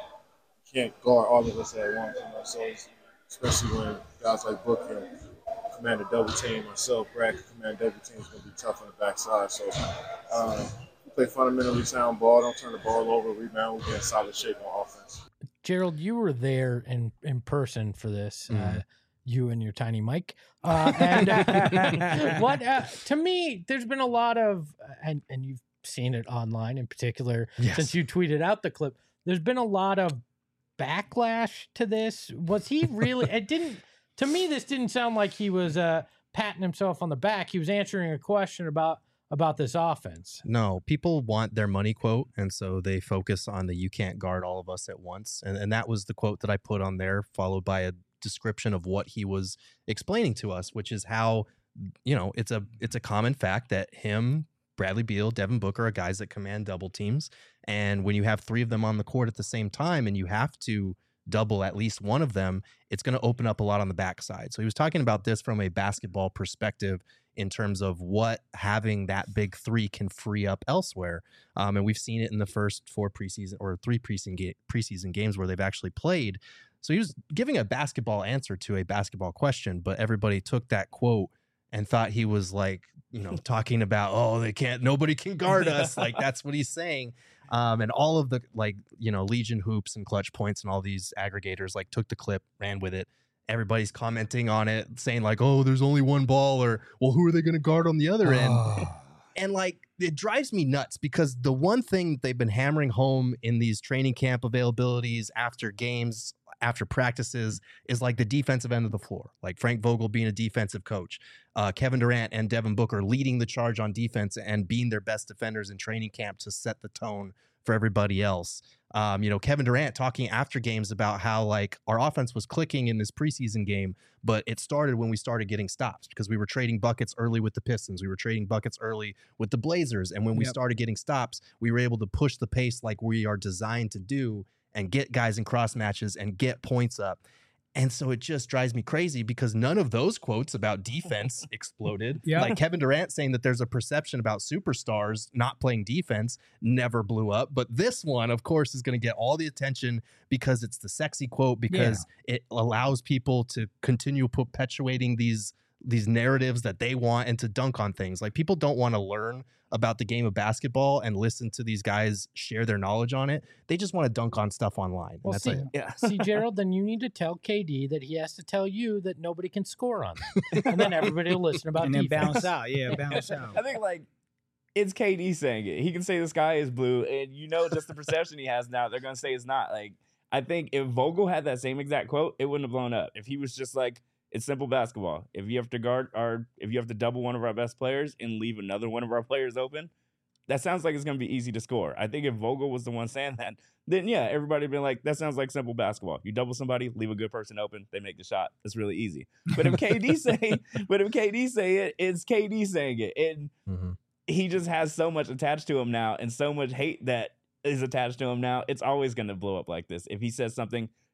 You can't guard all of us at once. You know, so it's, especially when guys like Book can command a double team, myself, Brad can command double team, it's going to be tough on the backside. So uh, we play fundamentally sound ball. Don't turn the ball over, rebound. We get in solid shape on offense. Gerald, you were there in, in person for this, Mhm. uh, you and your tiny mic. Uh, and uh, what uh, to me, there's been a lot of, and, and you've seen it online in particular, Yes. since you tweeted out the clip, there's been a lot of backlash to this. Was he really, it didn't, to me, this didn't sound like he was uh, patting himself on the back. He was answering a question about about this offense. No, people want their money quote, and so they focus on the "you can't guard all of us at once," and and that was the quote that I put on there, followed by a description of what he was explaining to us, which is how, you know, it's a it's a common fact that him, Bradley Beal, Devin Booker are guys that command double teams, and when you have three of them on the court at the same time, and you have to double at least one of them, it's going to open up a lot on the backside. So he was talking about this from a basketball perspective in terms of what having that big three can free up elsewhere. Um, and we've seen it in the first four preseason or three preseason, ga- preseason games where they've actually played. So he was giving a basketball answer to a basketball question, but everybody took that quote and thought he was like, you know, talking about, oh, they can't, nobody can guard us. Like, that's what he's saying. Um, and all of the, like, you know, Legion Hoops and Clutch Points and all these aggregators, like, took the clip, ran with it. Everybody's commenting on it, saying like, oh, there's only one ball, or, well, who are they going to guard on the other end? And like, it drives me nuts because the one thing that they've been hammering home in these training camp availabilities after games, after practices, is like the defensive end of the floor, like Frank Vogel being a defensive coach, uh, Kevin Durant and Devin Booker leading the charge on defense and being their best defenders in training camp to set the tone for everybody else. Um, you know, Kevin Durant talking after games about how like our offense was clicking in this preseason game, but it started when we started getting stops because we were trading buckets early with the Pistons. We were trading buckets early with the Blazers. And when we Yep. started getting stops, we were able to push the pace like we are designed to do and get guys in cross matches and get points up. And so it just drives me crazy because none of those quotes about defense exploded. Yeah. Like Kevin Durant saying that there's a perception about superstars not playing defense never blew up. But this one, of course, is going to get all the attention because it's the sexy quote, because it allows people to continue perpetuating these these narratives that they want and to dunk on things. Like, people don't want to learn about the game of basketball and listen to these guys share their knowledge on it. They just want to dunk on stuff online. And Well, that's see, it. Yeah. see, Gerald, then you need to tell K D that he has to tell you that nobody can score on them. And then everybody will listen about and then defense. bounce out. Yeah, bounce out. I think like it's K D saying it. He can say the sky is blue, and you know just the perception he has now. They're gonna say it's not. Like, I think if Vogel had that same exact quote, it wouldn't have blown up. If he was just like, it's simple basketball. If you have to guard our, if you have to double one of our best players and leave another one of our players open, that sounds like it's gonna be easy to score. I think if Vogel was the one saying that, then yeah, everybody would be like, that sounds like simple basketball. You double somebody, leave a good person open, they make the shot. It's really easy. But if K D say, but if K D say it, it's K D saying it, and Mhm. he just has so much attached to him now, and so much hate that is attached to him now. It's always gonna blow up like this. If he says something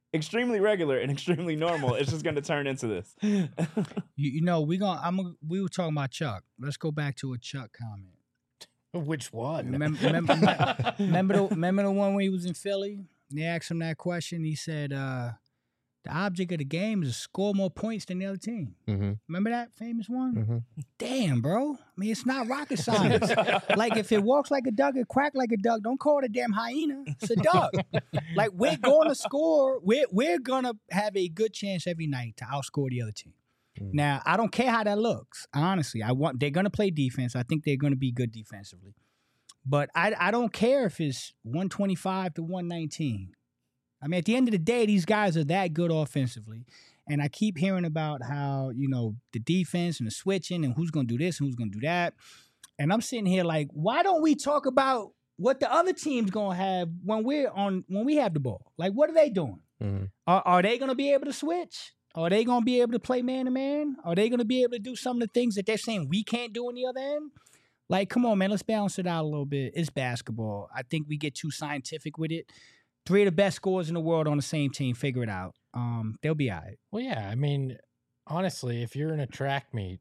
extremely regular and extremely normal, it's just going to turn into this. You, you know, we gonna. I'm. A, we were talking about Chuck. Let's go back to a Chuck comment. Which one? Remember, remember, remember, the, remember the one when he was in Philly? They asked him that question. He said, uh, "The object of the game is to score more points than the other team." Mm-hmm. Remember that famous one? Mm-hmm. Damn, bro. I mean, it's not rocket science. Like, if it walks like a duck, it quack like a duck. Don't call it a damn hyena. It's a duck. Like, we're going to score. We're we're gonna have a good chance every night to outscore the other team. Mm. Now, I don't care how that looks. Honestly, I want they're gonna play defense. I think they're gonna be good defensively. But I I don't care if it's one twenty-five to one nineteen. I mean, at the end of the day, these guys are that good offensively. And I keep hearing about how, you know, the defense and the switching and who's going to do this and who's going to do that. And I'm sitting here like, why don't we talk about what the other team's going to have when we're on when we have the ball? Like, what are they doing? Mm-hmm. Are, are they going to be able to switch? Are they going to be able to play man-to-man? Are they going to be able to do some of the things that they're saying we can't do on the other end? Like, come on, man, let's balance it out a little bit. It's basketball. I think we get too scientific with it. Three of the best scorers in the world on the same team, figure it out. Um, they'll be all right. Well, yeah. I mean, honestly, if you're in a track meet,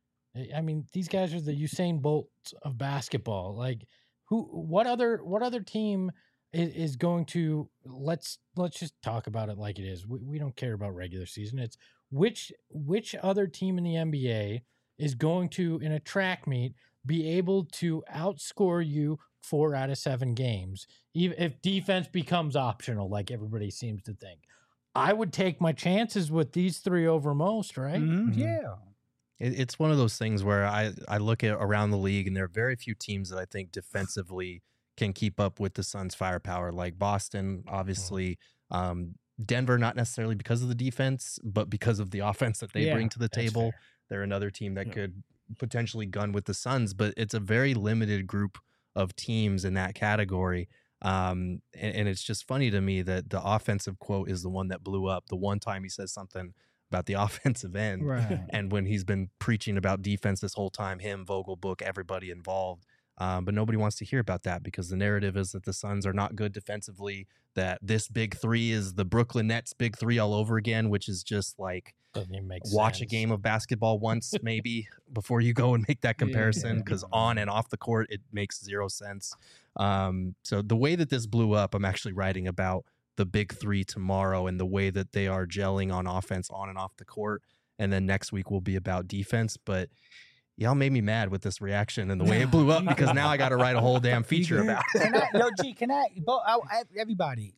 I mean, these guys are the Usain Bolts of basketball. Like, who? What other? What other team is, is going to? Let's let's just talk about it like it is. We, we don't care about regular season. It's which which other team in the N B A is going to, in a track meet, be able to outscore you four out of seven games, even if defense becomes optional, like everybody seems to think. I would take my chances with these three over most, right? Mm-hmm. Mhm. Yeah. It, it's one of those things where I, I look at around the league, and there are very few teams that I think defensively can keep up with the Suns' firepower. Like Boston, obviously, um, Denver, not necessarily because of the defense, but because of the offense that they Yeah, bring to the that's table. fair. They're another team that Yeah. could potentially gun with the Suns, but it's a very limited group of teams in that category. Um, and, and it's just funny to me that the offensive quote is the one that blew up. The one time he says something about the offensive end, Right. and when he's been preaching about defense this whole time, him, Vogel, Book, everybody involved. Um, but nobody wants to hear about that because the narrative is that the Suns are not good defensively, that this big three is the Brooklyn Nets big three all over again, which is just like Doesn't even make watch a sense. game of basketball once maybe before you go and make that comparison, because on and off the court, it makes zero sense. Um, so the way that this blew up, I'm actually writing about the big three tomorrow and the way that they are gelling on offense on and off the court. And then next week will be about defense. But y'all made me mad with this reaction and the way it blew up, because now I got to write a whole damn feature about it. Can I, yo, G, can I, bo- I, I- everybody,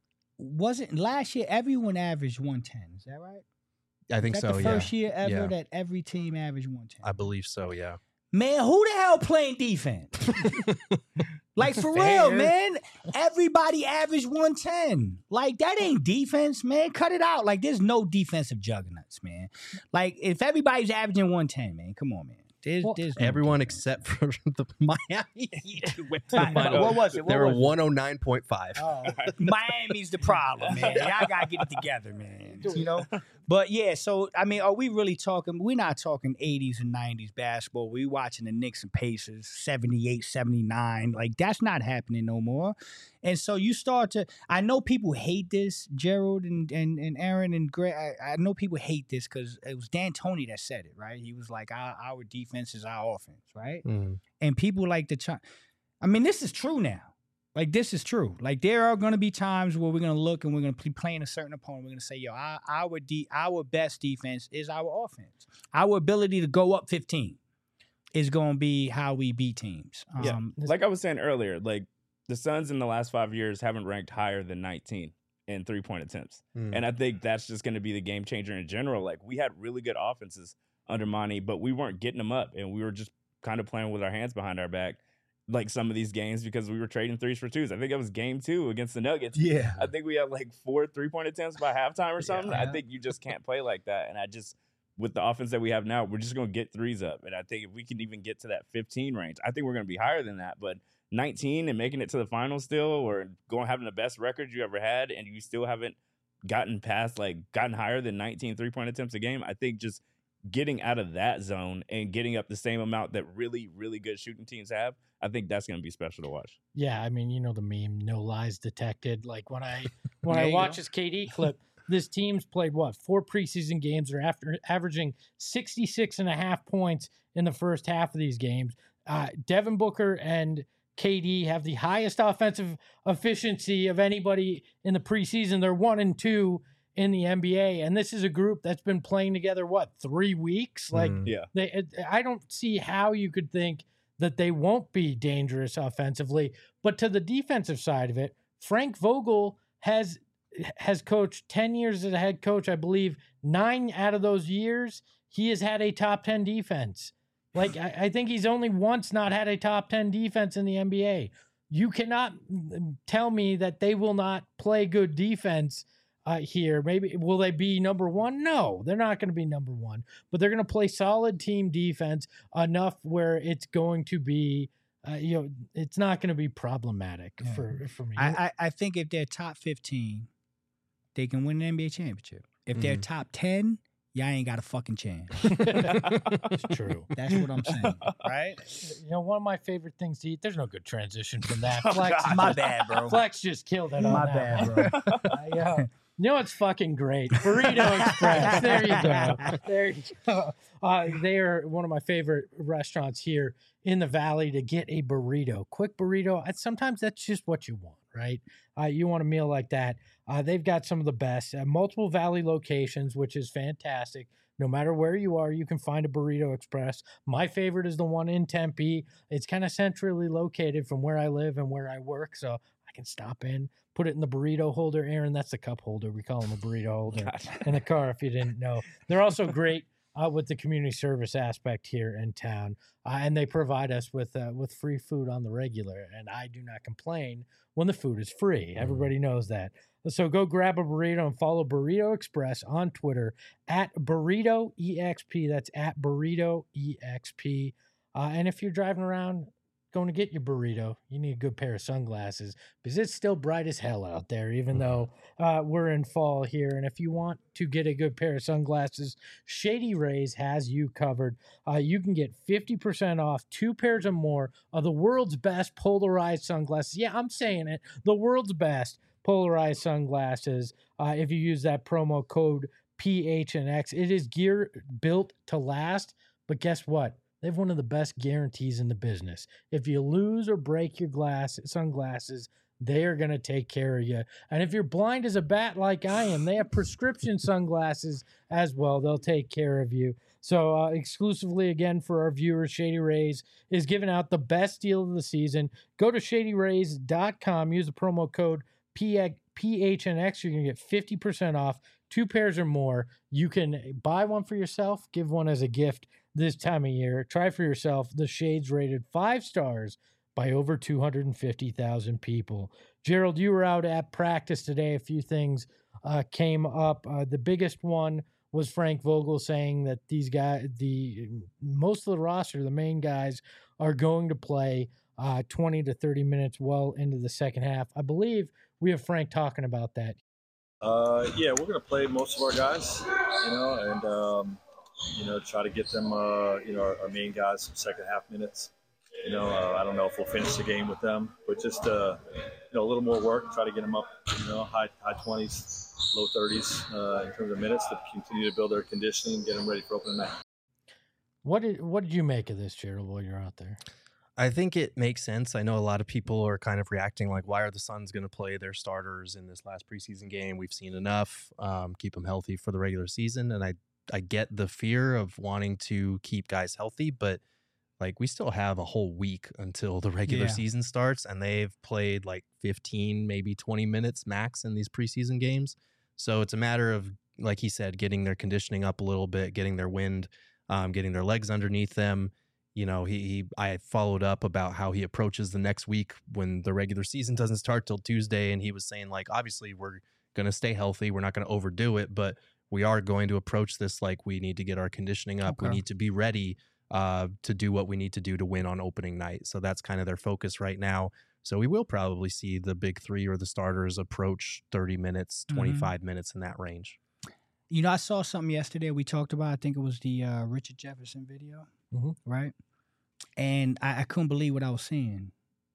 wasn't last year everyone averaged one ten? Is that right? I think Is that so, the yeah. first year ever Yeah. that every team averaged one ten? I believe so, yeah. Man, who the hell playing defense? Like, for real, Fair. man. Everybody averaged one ten. Like, that ain't defense, man. Cut it out. Like, there's no defensive juggernauts, man. Like, if everybody's averaging one ten, man, come on, man. There's, Well, there's no Everyone defense. except for the Miami Heat who went to the What final. was it? What They were was it? one oh nine point five. Oh, Miami's the problem, man. Y'all gotta get it together, man. You know? But yeah, so I mean, are we really talking? We're not talking eighties and nineties basketball. We watching the Knicks and Pacers, seventy-eight, seventy-nine. Like, that's not happening no more. And so you start to, I know people hate this, Gerald and and, and Aaron and Greg. I, I know people hate this because it was D'Antoni that said it, right? He was like, our, our defense is our offense, right? Mm. And people like to try. I mean, this is true now. Like, this is true. Like, there are going to be times where we're going to look and we're going to be playing a certain opponent. We're going to say, yo, our our, de- our best defense is our offense. Our ability to go up fifteen is going to be how we beat teams. Yeah. Um, Like I was saying earlier, like the Suns in the last five years haven't ranked higher than nineteen in three point attempts. Mm. And I think that's just going to be the game changer in general. Like, we had really good offenses under Monty, but we weren't getting them up, and we were just kind of playing with our hands behind our back, like some of these games, because we were trading threes for twos. I think that was game two against the Nuggets. yeah. I think we had like four three point attempts by halftime or something. I Yeah. think you just can't play like that. And I just, with the offense that we have now, we're just going to get threes up. And I think if we can even get to that fifteen range, I think we're going to be higher than that. But nineteen and making it to the finals still, or going having the best record you ever had, and you still haven't gotten past, like, gotten higher than nineteen three point attempts a game, I think just getting out of that zone and getting up the same amount that really, really good shooting teams have, I think that's going to be special to watch. Yeah, I mean, you know the meme, no lies detected. Like when I when There I you watch go. this K D clip, this team's played what four preseason games. They're after averaging sixty-six and a half points in the first half of these games. Uh, Devin Booker and K D have the highest offensive efficiency of anybody in the preseason. They're one and two in the N B A, and this is a group that's been playing together what three weeks. Like Mm. Yeah. they, it- I don't see how you could think that they won't be dangerous offensively. But to the defensive side of it, Frank Vogel has has coached ten years as a head coach. I believe nine out of those years he has had a top ten defense. Like I, I think he's only once not had a top ten defense in the N B A. You cannot mm, tell me that they will not play good defense uh, here. Maybe will they be number one? No, they're not going to be number one. But they're going to play solid team defense enough where it's going to be, uh, you know, it's not going to be problematic Yeah. for for me. I, I, I think if they're top fifteen, they can win an N B A championship. If they're Mhm. top ten, y'all ain't got a fucking chance. It's true. That's what I'm saying, right? You know, one of my favorite things to eat. There's no good transition from that. Flex, My bad, bro. Flex just killed it. On My that bad, one. bro. I, uh, you know what's fucking great? Burrito Express. There you go. There you go. Uh, they are one of my favorite restaurants here in the Valley to get a burrito. Quick burrito. I- Sometimes that's just what you want, right? Uh, you want a meal like that. Uh, they've got some of the best. Uh, multiple Valley locations, which is fantastic. No matter where you are, you can find a Burrito Express. My favorite is the one in Tempe. It's kind of centrally located from where I live and where I work, so I can stop in, put it in the burrito holder. Aaron, that's the cup holder. We call them a burrito holder in the car if you didn't know. They're also great uh, with the community service aspect here in town, uh, and they provide us with uh, with free food on the regular, and I do not complain when the food is free. Everybody knows that. So go grab a burrito and follow Burrito Express on Twitter at Burrito E X P. That's at Burrito E X P. Uh, and if you're driving around going to get your burrito, you need a good pair of sunglasses because it's still bright as hell out there, even though uh, we're in fall here. And if you want to get a good pair of sunglasses, Shady Rays has you covered. Uh, you can get fifty percent off two pairs or more of the world's best polarized sunglasses. Yeah, I'm saying it. The world's best polarized sunglasses. Uh, if you use that promo code P H N X, it is gear built to last. But guess what? They have one of the best guarantees in the business. If you lose or break your glass sunglasses, they are going to take care of you. And if you're blind as a bat like I am, they have prescription sunglasses as well. They'll take care of you. So uh, exclusively, again, for our viewers, Shady Rays is giving out the best deal of the season. Go to shady rays dot com. Use the promo code P H N X. You're going to get fifty percent off, two pairs or more. You can buy one for yourself, give one as a gift this time of year. Try for yourself. The Shades rated five stars by over two hundred fifty thousand people. Gerald, you were out at practice today. A few things uh, came up. Uh, the biggest one was Frank Vogel saying that these guys, the most of the roster, the main guys, are going to play uh, twenty to thirty minutes well into the second half. I believe we have Frank talking about that. Uh, yeah, we're gonna play most of our guys, you know, and um, you know, try to get them, uh, you know, our, our main guys some second half minutes. You know, uh, I don't know if we'll finish the game with them, but just uh, you know, a little more work. Try to get them up, you know, high high twenties, low thirties uh, in terms of minutes to continue to build their conditioning, get them ready for opening night. What did what did you make of this, Gerald, while you're out there? I think it makes sense. I know a lot of people are kind of reacting like, why are the Suns going to play their starters in this last preseason game? We've seen enough. Um, keep them healthy for the regular season. And I, I get the fear of wanting to keep guys healthy, but like we still have a whole week until the regular Yeah. season starts, and they've played like fifteen, maybe twenty minutes max in these preseason games. So it's a matter of, like he said, getting their conditioning up a little bit, getting their wind, um, getting their legs underneath them. You know, he, he I followed up about how he approaches the next week when the regular season doesn't start till Tuesday. And he was saying, like, obviously we're going to stay healthy. We're not going to overdo it, but we are going to approach this like we need to get our conditioning up. We Okay. need to be ready uh, to do what we need to do to win on opening night. So that's kind of their focus right now. So we will probably see the big three or the starters approach thirty minutes, Mhm. twenty-five minutes in that range. You know, I saw something yesterday we talked about. I think it was the uh, Richard Jefferson video, Mhm. right? And I, I couldn't believe what I was seeing.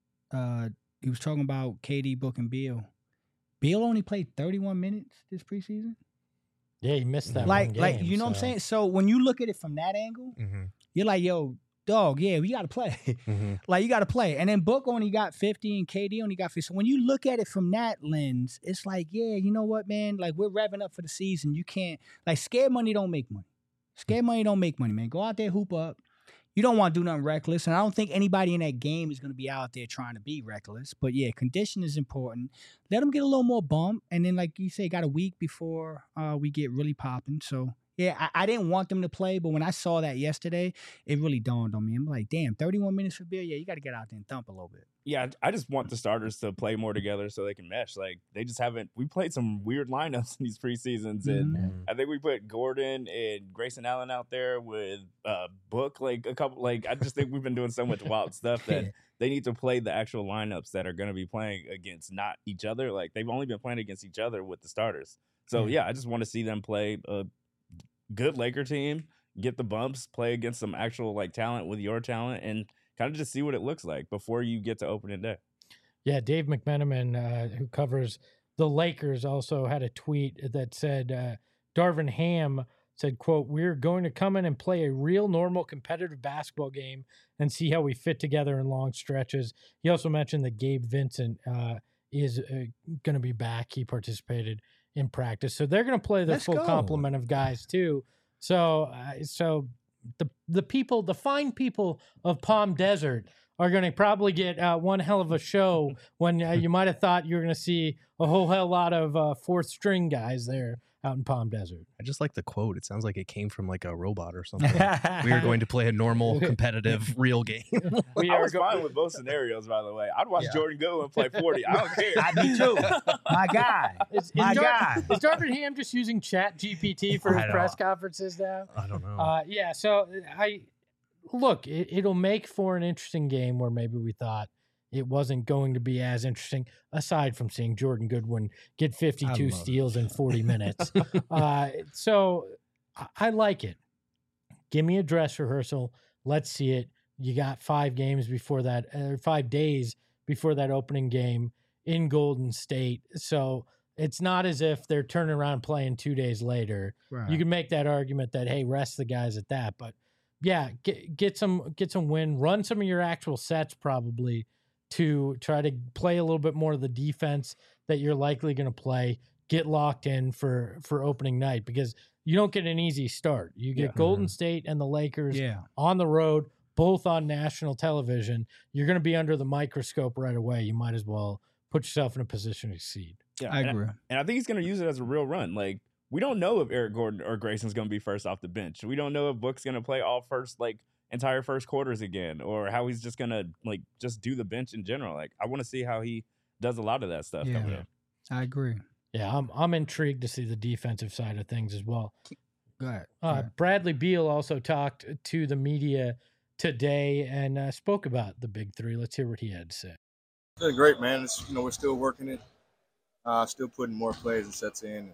Uh, he was talking about K D, Book, and Beal. Beal only played thirty-one minutes this preseason. Yeah, he missed that Like, one game. like you know what I'm so- saying? So when you look at it from that angle, Mhm. you're like, yo, dog, yeah, we got to play. Mhm. Like, you got to play. And then Book only got fifty and K D only got fifty. So when you look at it from that lens, it's like, yeah, you know what, man? Like, we're revving up for the season. You can't, like, scared money don't make money. Scared money don't make money, man. Go out there, hoop up. You don't want to do nothing reckless. And I don't think anybody in that game is going to be out there trying to be reckless. But yeah, condition is important. Let them get a little more bump. And then, like you say, got a week before uh, we get really popping. So yeah, I, I didn't want them to play, but when I saw that yesterday, it really dawned on me. I'm like, damn, thirty-one minutes for Beal? Yeah, you got to get out there and thump a little bit. Yeah, I just want the starters to play more together so they can mesh. Like they just haven't. We played some weird lineups in these preseasons, and Mhm. I think we put Gordon and Grayson Allen out there with uh, Book. Like a couple. Like I just think we've been doing so much wild stuff that they need to play the actual lineups that are going to be playing against not each other. Like they've only been playing against each other with the starters. So yeah, I just want to see them play a good Laker team, get the bumps, play against some actual like talent with your talent, and kind of just see what it looks like before you get to opening day. Yeah, Dave McMenamin, uh, who covers the Lakers, also had a tweet that said, uh, Darvin Ham said, quote, "We're going to come in and play a real normal competitive basketball game and see how we fit together in long stretches." He also mentioned that Gabe Vincent uh, is uh, going to be back. He participated in practice. So they're going to play the Let's full go. complement of guys too. So, uh, so the the people, the fine people of Palm Desert are going to probably get uh, one hell of a show when uh, you might have thought you were going to see a whole hell lot of uh, fourth string guys there out in Palm Desert. I just like the quote. It sounds like it came from like a robot or something. We are going to play a normal, competitive, real game. We I are was go- fine with both scenarios, by the way. I'd watch Yeah. Jordan Goodwin play forty. I don't care. I me too. My guy. Is, is, My Dar- guy. is Darvin Ham just using Chat G P T for I his know. press conferences now? I don't know. Uh, yeah, so I look, it, it'll make for an interesting game where maybe we thought it wasn't going to be as interesting, aside from seeing Jordan Goodwin get fifty-two love it. steals in forty minutes. uh, so I, I like it. Give me a dress rehearsal. Let's see it. You got five games before that, uh, five days before that opening game in Golden State. So it's not as if they're turning around and playing two days later. Right. You can make that argument that, hey, rest the guys at that. But yeah, get get some get some win. Run some of your actual sets probably to try to play a little bit more of the defense that you're likely going to play. Get locked in for for opening night because you don't get an easy start. You get Yeah. Golden State and the Lakers yeah. on the road, both on national television. You're going to be under the microscope right away. You might as well put yourself in a position to succeed. Yeah, I and agree. And I think he's going to use it as a real run. Like, we don't know if Eric Gordon or Grayson's going to be first off the bench. We don't know if Book's going to play all first, like, entire first quarters again, or how he's just going to, like, just do the bench in general. Like, I want to see how he does a lot of that stuff Yeah. coming up. I agree. Yeah, I'm I'm intrigued to see the defensive side of things as well. Go ahead. Go Uh, ahead. Bradley Beal also talked to the media today and uh, spoke about the big three. Let's hear what he had to say. It's been great, man. It's, you know, we're still working it, uh, still putting more plays and sets in.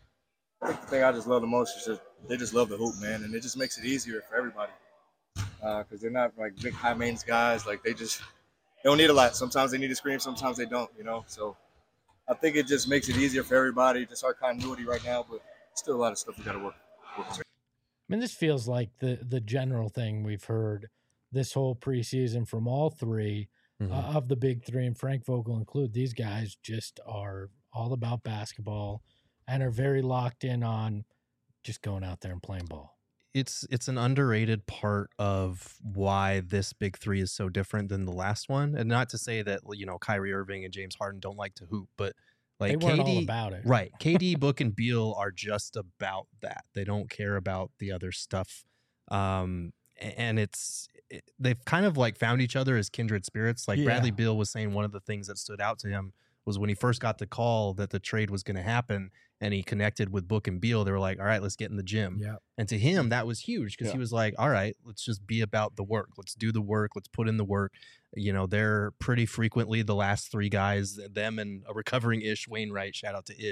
I think the thing I just love the most is just they just love the hoop, man, and it just makes it easier for everybody because they're not like big high maintenance guys. Like they just they don't need a lot. Sometimes they need to scream, sometimes they don't. You know, so I think it just makes it easier for everybody. Just our continuity right now, but still a lot of stuff we got to work. work on. I mean, this feels like the the general thing we've heard this whole preseason from all three Mhm. uh, of the big three, and Frank Vogel included. These guys just are all about basketball and are very locked in on just going out there and playing ball. It's it's an underrated part of why this big three is so different than the last one. And not to say that, you know, Kyrie Irving and James Harden don't like to hoop, but like They weren't K D, all about it. right? K D, Book, and Beal are just about that. They don't care about the other stuff. Um, a- and it's it, they've kind of like found each other as kindred spirits. Like Yeah. Bradley Beal was saying, one of the things that stood out to him was when he first got the call that the trade was going to happen, and he connected with Book and Beal. They were like, "All right, let's get in the gym." Yeah. And to him, that was huge because Yeah. he was like, all right, let's just be about the work. Let's do the work. Let's put in the work. You know, they're pretty frequently the last three guys, them and a recovering Ish Wainwright, shout out to Ish,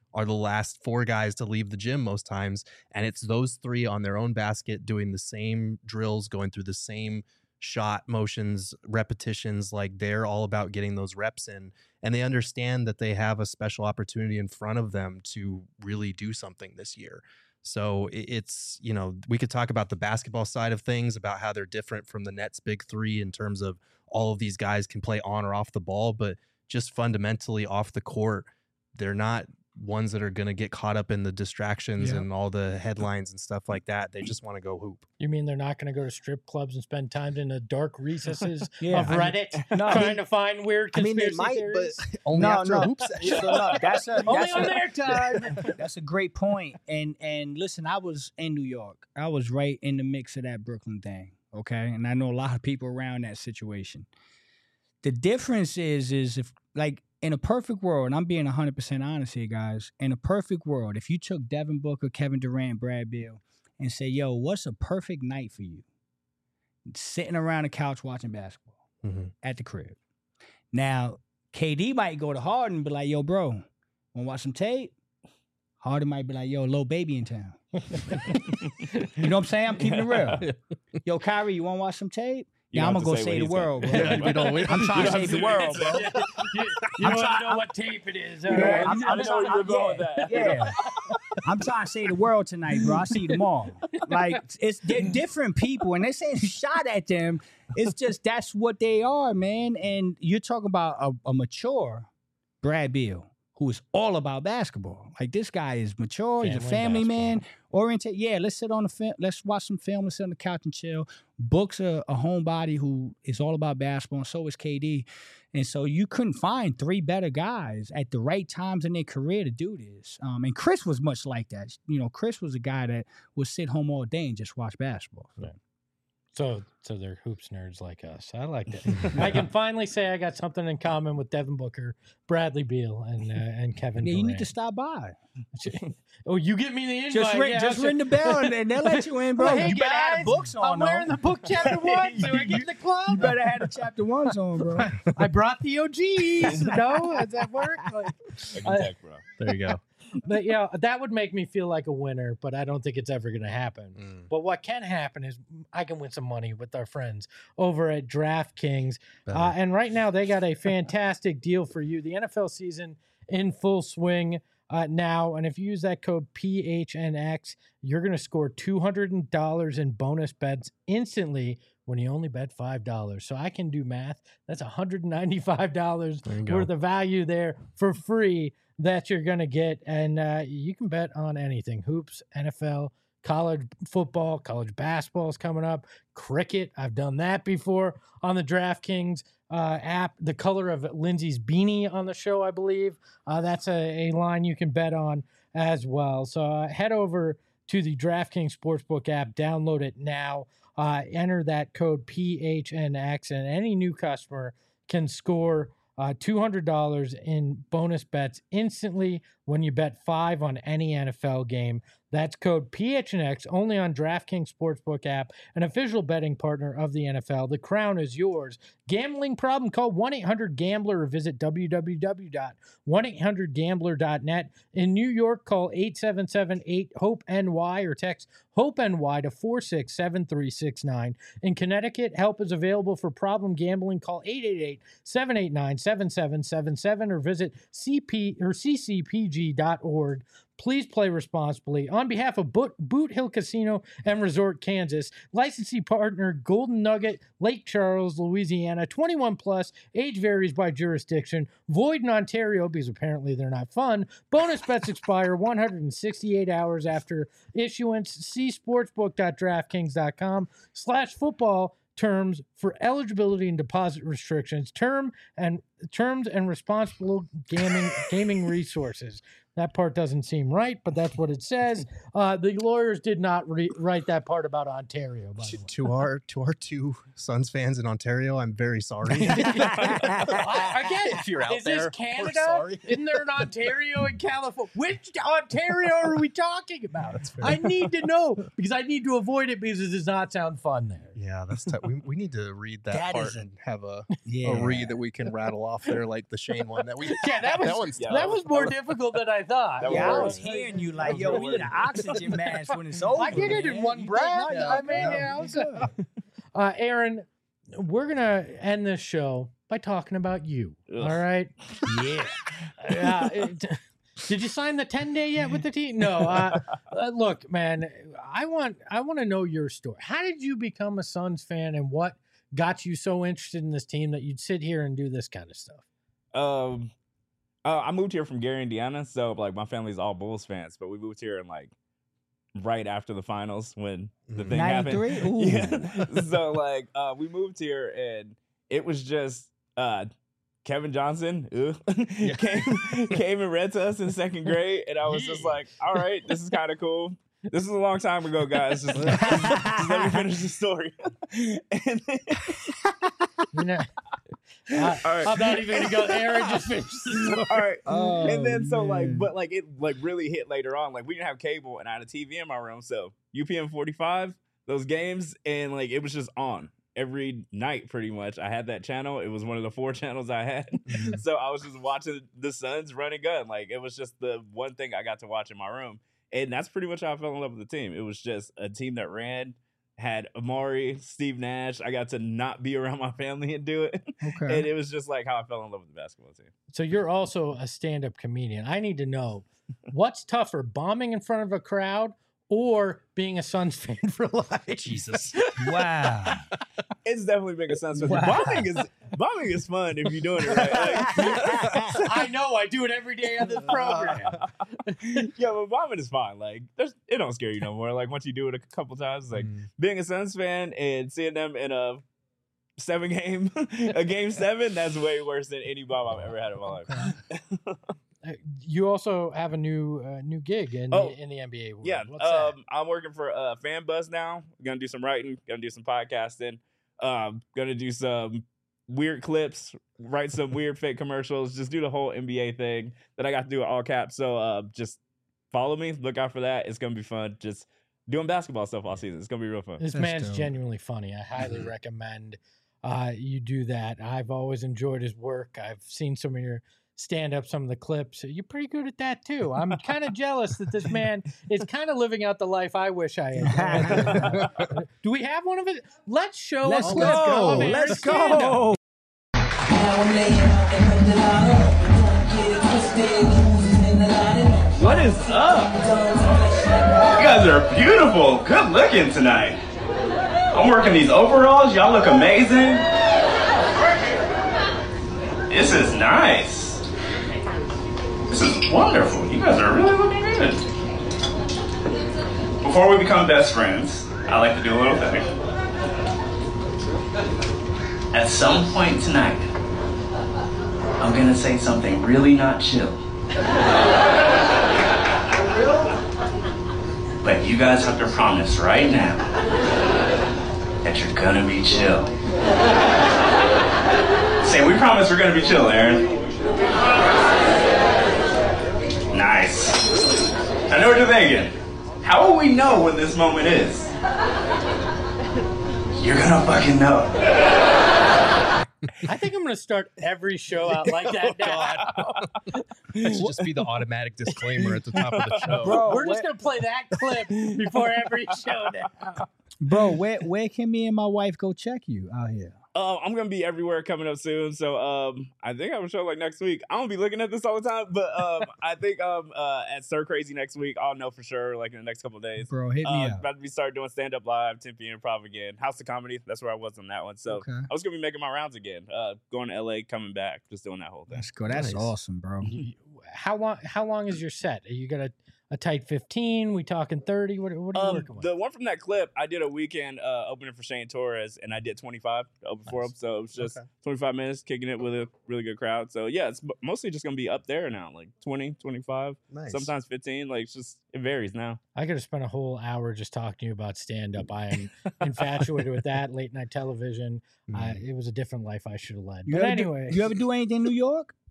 are the last four guys to leave the gym most times. And it's those three on their own basket doing the same drills, going through the same shot motions, repetitions. Like they're all about getting those reps in. And they understand that they have a special opportunity in front of them to really do something this year. So it's, you know, we could talk about the basketball side of things, about how they're different from the Nets' big three in terms of all of these guys can play on or off the ball, but just fundamentally off the court, they're not ones that are going to get caught up in the distractions Yeah. and all the headlines and stuff like that. They just want to go hoop. You mean they're not going to go to strip clubs and spend time in the dark recesses Yeah, of I mean- Reddit No, I trying mean- to find weird I mean, conspiracy they might, theories? but only No, after no. a hoop session. So, no, that's a, Only that's on a- their time. That's a great point. And and listen, I was in New York. I was right in the mix of that Brooklyn thing. Okay. And I know a lot of people around that situation. The difference is, is if like in a perfect world, and I'm being one hundred percent honest here, guys, in a perfect world, if you took Devin Booker, Kevin Durant, Brad Beal, and say, yo, what's a perfect night for you? Sitting around the couch watching basketball Mhm. at the crib. Now, K D might go to Harden and be like, yo, bro, want to watch some tape? Harden might be like, yo, little baby in town. You know what I'm saying? I'm keeping it real. Yo, Kyrie, you want to watch some tape? You Yeah, don't I'm have going to to say save the what he world, bro. Yeah, we don't- we- I'm trying to You save the don't world, bro. you you I'm want try- to know what tape it is. all Yeah, right? I'm, I I'm know trying, where you're going yeah, with that. yeah. I'm trying to save the world tonight, bro. I see them all. Like it's they're different people, and they're saying shot at them. It's just that's what they are, man. And you're talking about a, a mature Brad Beal, who is all about basketball. Like this guy is mature. He's a Family family basketball. man, oriented. Yeah, let's sit on the film. Let's watch some film. Let's sit on the couch and chill. Book's a, a homebody who is all about basketball, and so is K D. And so you couldn't find three better guys at the right times in their career to do this. Um, and Chris was much like that. You know, Chris was a guy that would sit home all day and just watch basketball. Yeah. So, so they're hoops nerds like us. I like that. I can finally say I got something in common with Devin Booker, Bradley Beal, and uh, and Kevin Yeah, Durant. you need to stop by. Oh, you get me the invite. Just ring, yeah, just I'll- ring the bell and, and they'll let you in, bro. Well, hey, you better have guys, the books on. I'm wearing though. the book chapter one, so I get the club. You better have the chapter ones on, bro. I brought the O Gs. No, does that work? Like, I can I- tech, bro. There you go. but yeah, that would make me feel like a winner, but I don't think it's ever going to happen. Mm. But what can happen is I can win some money with our friends over at DraftKings. Better. Uh, and right now, they got a fantastic deal for you. The N F L season in full swing uh, now. And if you use that code P H N X, you're going to score two hundred dollars in bonus bets instantly when you only bet five dollars. So I can do math. That's one hundred ninety-five dollars There you go. worth of value there for free that you're going to get. And uh, you can bet on anything: hoops, N F L, college football, college basketball is coming up, cricket. I've done that before on the DraftKings uh, app. The color of Lindsay's beanie on the show, I believe. Uh, that's a, a line you can bet on as well. So uh, head over to the DraftKings Sportsbook app, download it now, uh, enter that code P H N X, and any new customer can score Uh, two hundred dollars in bonus bets instantly when you bet five on any N F L game. That's code P H N X only on DraftKings Sportsbook app, an official betting partner of the N F L. The crown is yours. Gambling problem? Call one eight hundred gambler or visit w w w dot one eight hundred gambler dot net. In New York, call eight seven seven eight hope N Y or text HOPE-NY to four six seven three six nine. In Connecticut, help is available for problem gambling. Call eight eight eight seven eight nine seven seven seven seven or visit C P or c c p g dot org. Please play responsibly. On behalf of Boot, Boot Hill Casino and Resort, Kansas, licensee partner Golden Nugget, Lake Charles, Louisiana, twenty-one plus, age varies by jurisdiction, void in Ontario because apparently they're not fun. Bonus bets expire one hundred sixty-eight hours after issuance. See sportsbook dot draftkings dot com slash football terms for eligibility and deposit restrictions, term and terms and responsible gaming gaming resources. That part doesn't seem right, but that's what it says. Uh, the lawyers did not re- write that part about Ontario, by the To, way. to our to our two Suns fans in Ontario, I'm very sorry. I- Again, If you're out is there, this we're Canada? sorry. Isn't there an Ontario and California? Which Ontario are we talking about? That's fair. I need to know because I need to avoid it because it does not sound fun there. Yeah, that's tough. We, we need to read that, That part is a- and have a, Yeah. a read that we can rattle off there, like the Shane one that we. Yeah, that was that one's yeah, tough. that was more difficult than I thought. That Yeah, I was was worse. hearing you That like, was yo, real we need an worse. oxygen mask when it's over. I did it in man. one You breath. did- no, I no, mean, no, yeah, I you was- good. Uh, Aaron, we're gonna end this show by talking about you. Ugh. All right. Yeah. Yeah. it- did you sign the ten day yet with the team? No. Uh, uh, look, man, I want I want to know your story. How did you become a Suns fan, and what got you so interested in this team that you'd sit here and do this kind of stuff? Um, uh, I moved here from Gary, Indiana, so like my family's all Bulls fans, but we moved here in like right after the finals when the Mm. thing happened. ninety-three? Ooh. Yeah. So like uh, we moved here and it was just uh, Kevin Johnson ugh, came came and read to us in second grade, and I was just Yeah. like, all right, this is kind of cool. This is a long time ago, guys. Just, just, just let me finish the story. And then, You know, I, all right. I'm not even gonna go. Aaron just finished. the story. All right. Oh, And then so like, man. but like it like really hit later on. Like we didn't have cable, and I had a T V in my room, so U P M forty-five, those games, and like it was just on every night pretty much. I had that channel. It was one of the four channels I had, so I was just watching the Suns run and gun. Like it was just the one thing I got to watch in my room, and that's pretty much how I fell in love with the team. It was just a team that ran. Had Amari, Steve Nash. I got to not be around my family and do it. Okay. And it was just like how I fell in love with the basketball team. So you're also a stand-up comedian. I need to know what's tougher, bombing in front of a crowd or being a Suns fan for life? Jesus. Wow. It's definitely been a sense. Wow. Bombing is bombing is fun if you're doing it right. Like, I know. I do it every day on this program. yeah, but bombing is fine. Like, there's it don't scare you no more. Like once you do it a couple times, it's like Mm. being a Suns fan and seeing them in a seven game, a game seven, that's way worse than any bomb I've ever had in my life. Uh, You also have a new uh, new gig in Oh, the, in the N B A world. Yeah, What's that? um, I'm working for uh, Fan Buzz now. Gonna do some writing. Gonna do some podcasting. Um, gonna do some weird clips. Write some weird fake commercials. Just do the whole N B A thing that I got to do at all caps. So uh, just follow me. Look out for that. It's gonna be fun. Just doing basketball stuff all season. It's gonna be real fun. This That's man's dope. genuinely funny. I highly recommend uh, you do that. I've always enjoyed his work. I've seen some of your stand up, some of the clips. You're pretty good at that too. I'm kind of jealous that this man is kind of living out the life I wish I had. Do we have one of it? Let's show Let's a clip go. of Aaron's Let's stand-up. go. What is up? You guys are beautiful, good looking tonight. I'm working these overalls, y'all look amazing. This is nice. This is wonderful. You guys are really looking good. Before we become best friends, I like to do a little thing. At some point tonight, I'm gonna say something really not chill. But you guys have to promise right now that you're gonna be chill. Say, we promise we're gonna be chill, Aaron. Nice. I know what you're thinking. How will we know when this moment is? You're gonna fucking know. I think I'm going to start every show out like that now. That should just be the automatic disclaimer at the top of the show. Bro, We're just what- going to play that clip before every show now. Bro, where where can me and my wife go check you out here? Uh, I'm gonna be everywhere coming up soon, so um, I think I have a show like next week. I don't be looking at this all the time, but um, I think um, uh, at Stir Crazy next week, I'll know for sure, like in the next couple of days. Bro, hit me Uh, up. about to be start doing stand up live, ten p.m. Improv again, House of Comedy. That's where I was on that one. So Okay. I was gonna be making my rounds again, uh, going to L A, coming back, just doing that whole thing. Let's go. That's Nice. awesome, bro. You- How long? How long is your set? Are you got a, a tight fifteen? We talking thirty? What, what are you Um, working with? the one from that clip, I did a weekend uh, opening for Shane Torres, and I did twenty-five to open for him. Nice. So it was just Okay. twenty-five minutes, kicking it with a really good crowd. So yeah, it's m- mostly just gonna be up there now, like twenty, twenty-five, Nice. sometimes fifteen. Like it's just it varies now. I could have spent a whole hour just talking to you about stand up. I am infatuated with that late night television. I, Mm. it was a different life I should have led. You But ever do- anyway, you ever do anything in New York?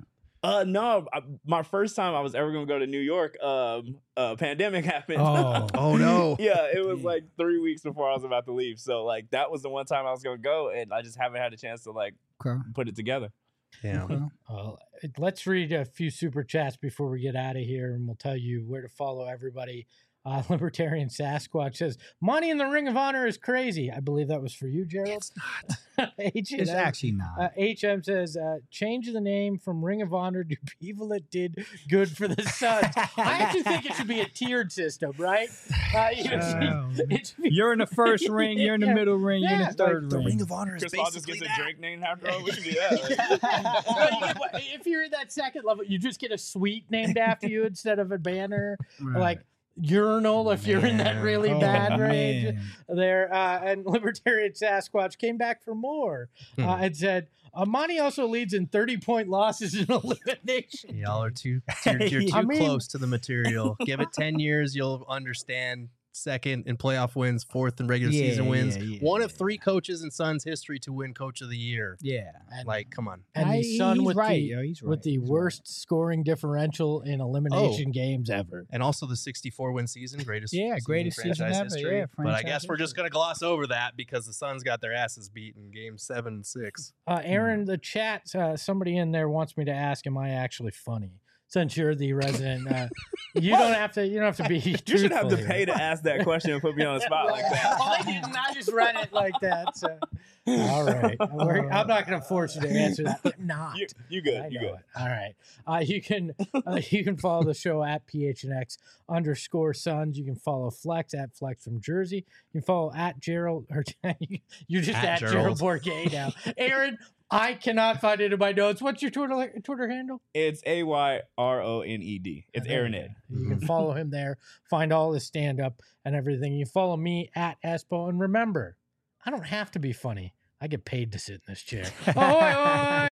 Uh, no, I, my first time I was ever gonna go to New York, um, uh, pandemic happened. Oh. Oh no. Yeah, it was Dang. like three weeks before I was about to leave. So like that was the one time I was gonna go, and I just haven't had a chance to like Okay. put it together. Damn. Okay. Uh, let's read a few super chats before we get out of here, and we'll tell you where to follow everybody. Uh, Libertarian Sasquatch says, "Money in the Ring of Honor is crazy." I believe that was for you, Gerald. It's not. H- It's uh, actually not. Uh, H M says, uh, "Change the name from Ring of Honor to people that did good for the Suns." I actually think it should be a tiered system, right? Uh, you know, Oh, it should be- You're in the first ring. You're in the Yeah. middle ring. You're in Yeah, the third The ring. Ring of Honor is Chris Paul just basically gets a that. Drake name after all. We can do that. But you get- if you're in that second level, you just get a suite named after you instead of a banner, Right. like urinal if you're in that Man. really Oh, bad range. man. There, uh, and Libertarian Sasquatch came back for more uh, Hmm. and said, Amani also leads in thirty point losses in elimination. Y'all are too, you're, you're too I mean- close to the material. Give it ten years, you'll understand. Second in playoff wins, fourth in regular Yeah, season wins. yeah, yeah, One of yeah. three coaches in Suns history to win Coach of the Year. Yeah. And, Like, come on. and I- the Sun he's with right, the, yo, he's with right, the he's right. worst scoring differential in elimination games ever. And also the sixty-four win season, greatest Yeah, season greatest in season franchise ever, history. yeah, but I franchise guess we're just history. going to gloss over that because the Suns got their asses beat in game seven and six. Uh, Aaron, the chat, uh, somebody in there wants me to ask, am I actually funny? Since you're the resident, uh, you don't have to. You don't have to be. You should have to truthful pay here. to ask that question and put me on the spot like that. I didn't. I just read it like that. So. All right. We're- I'm not going to force you to answer that. I'm not. You, you good? I You know good? it. All right. Uh, you can uh, you can follow the show at P H N X underscore Suns. You can follow Flex at Flex from Jersey. You can follow at Gerald. Or you're just At at, Gerald Gerald. Bourget now. Aaron, I cannot find it in my notes. What's your Twitter Twitter handle? It's A Y R O N E D. It's There Aaron you Ed. go. You can follow him there. Find all his stand up and everything. You follow me at Espo. And remember, I don't have to be funny. I get paid to sit in this chair. Oh,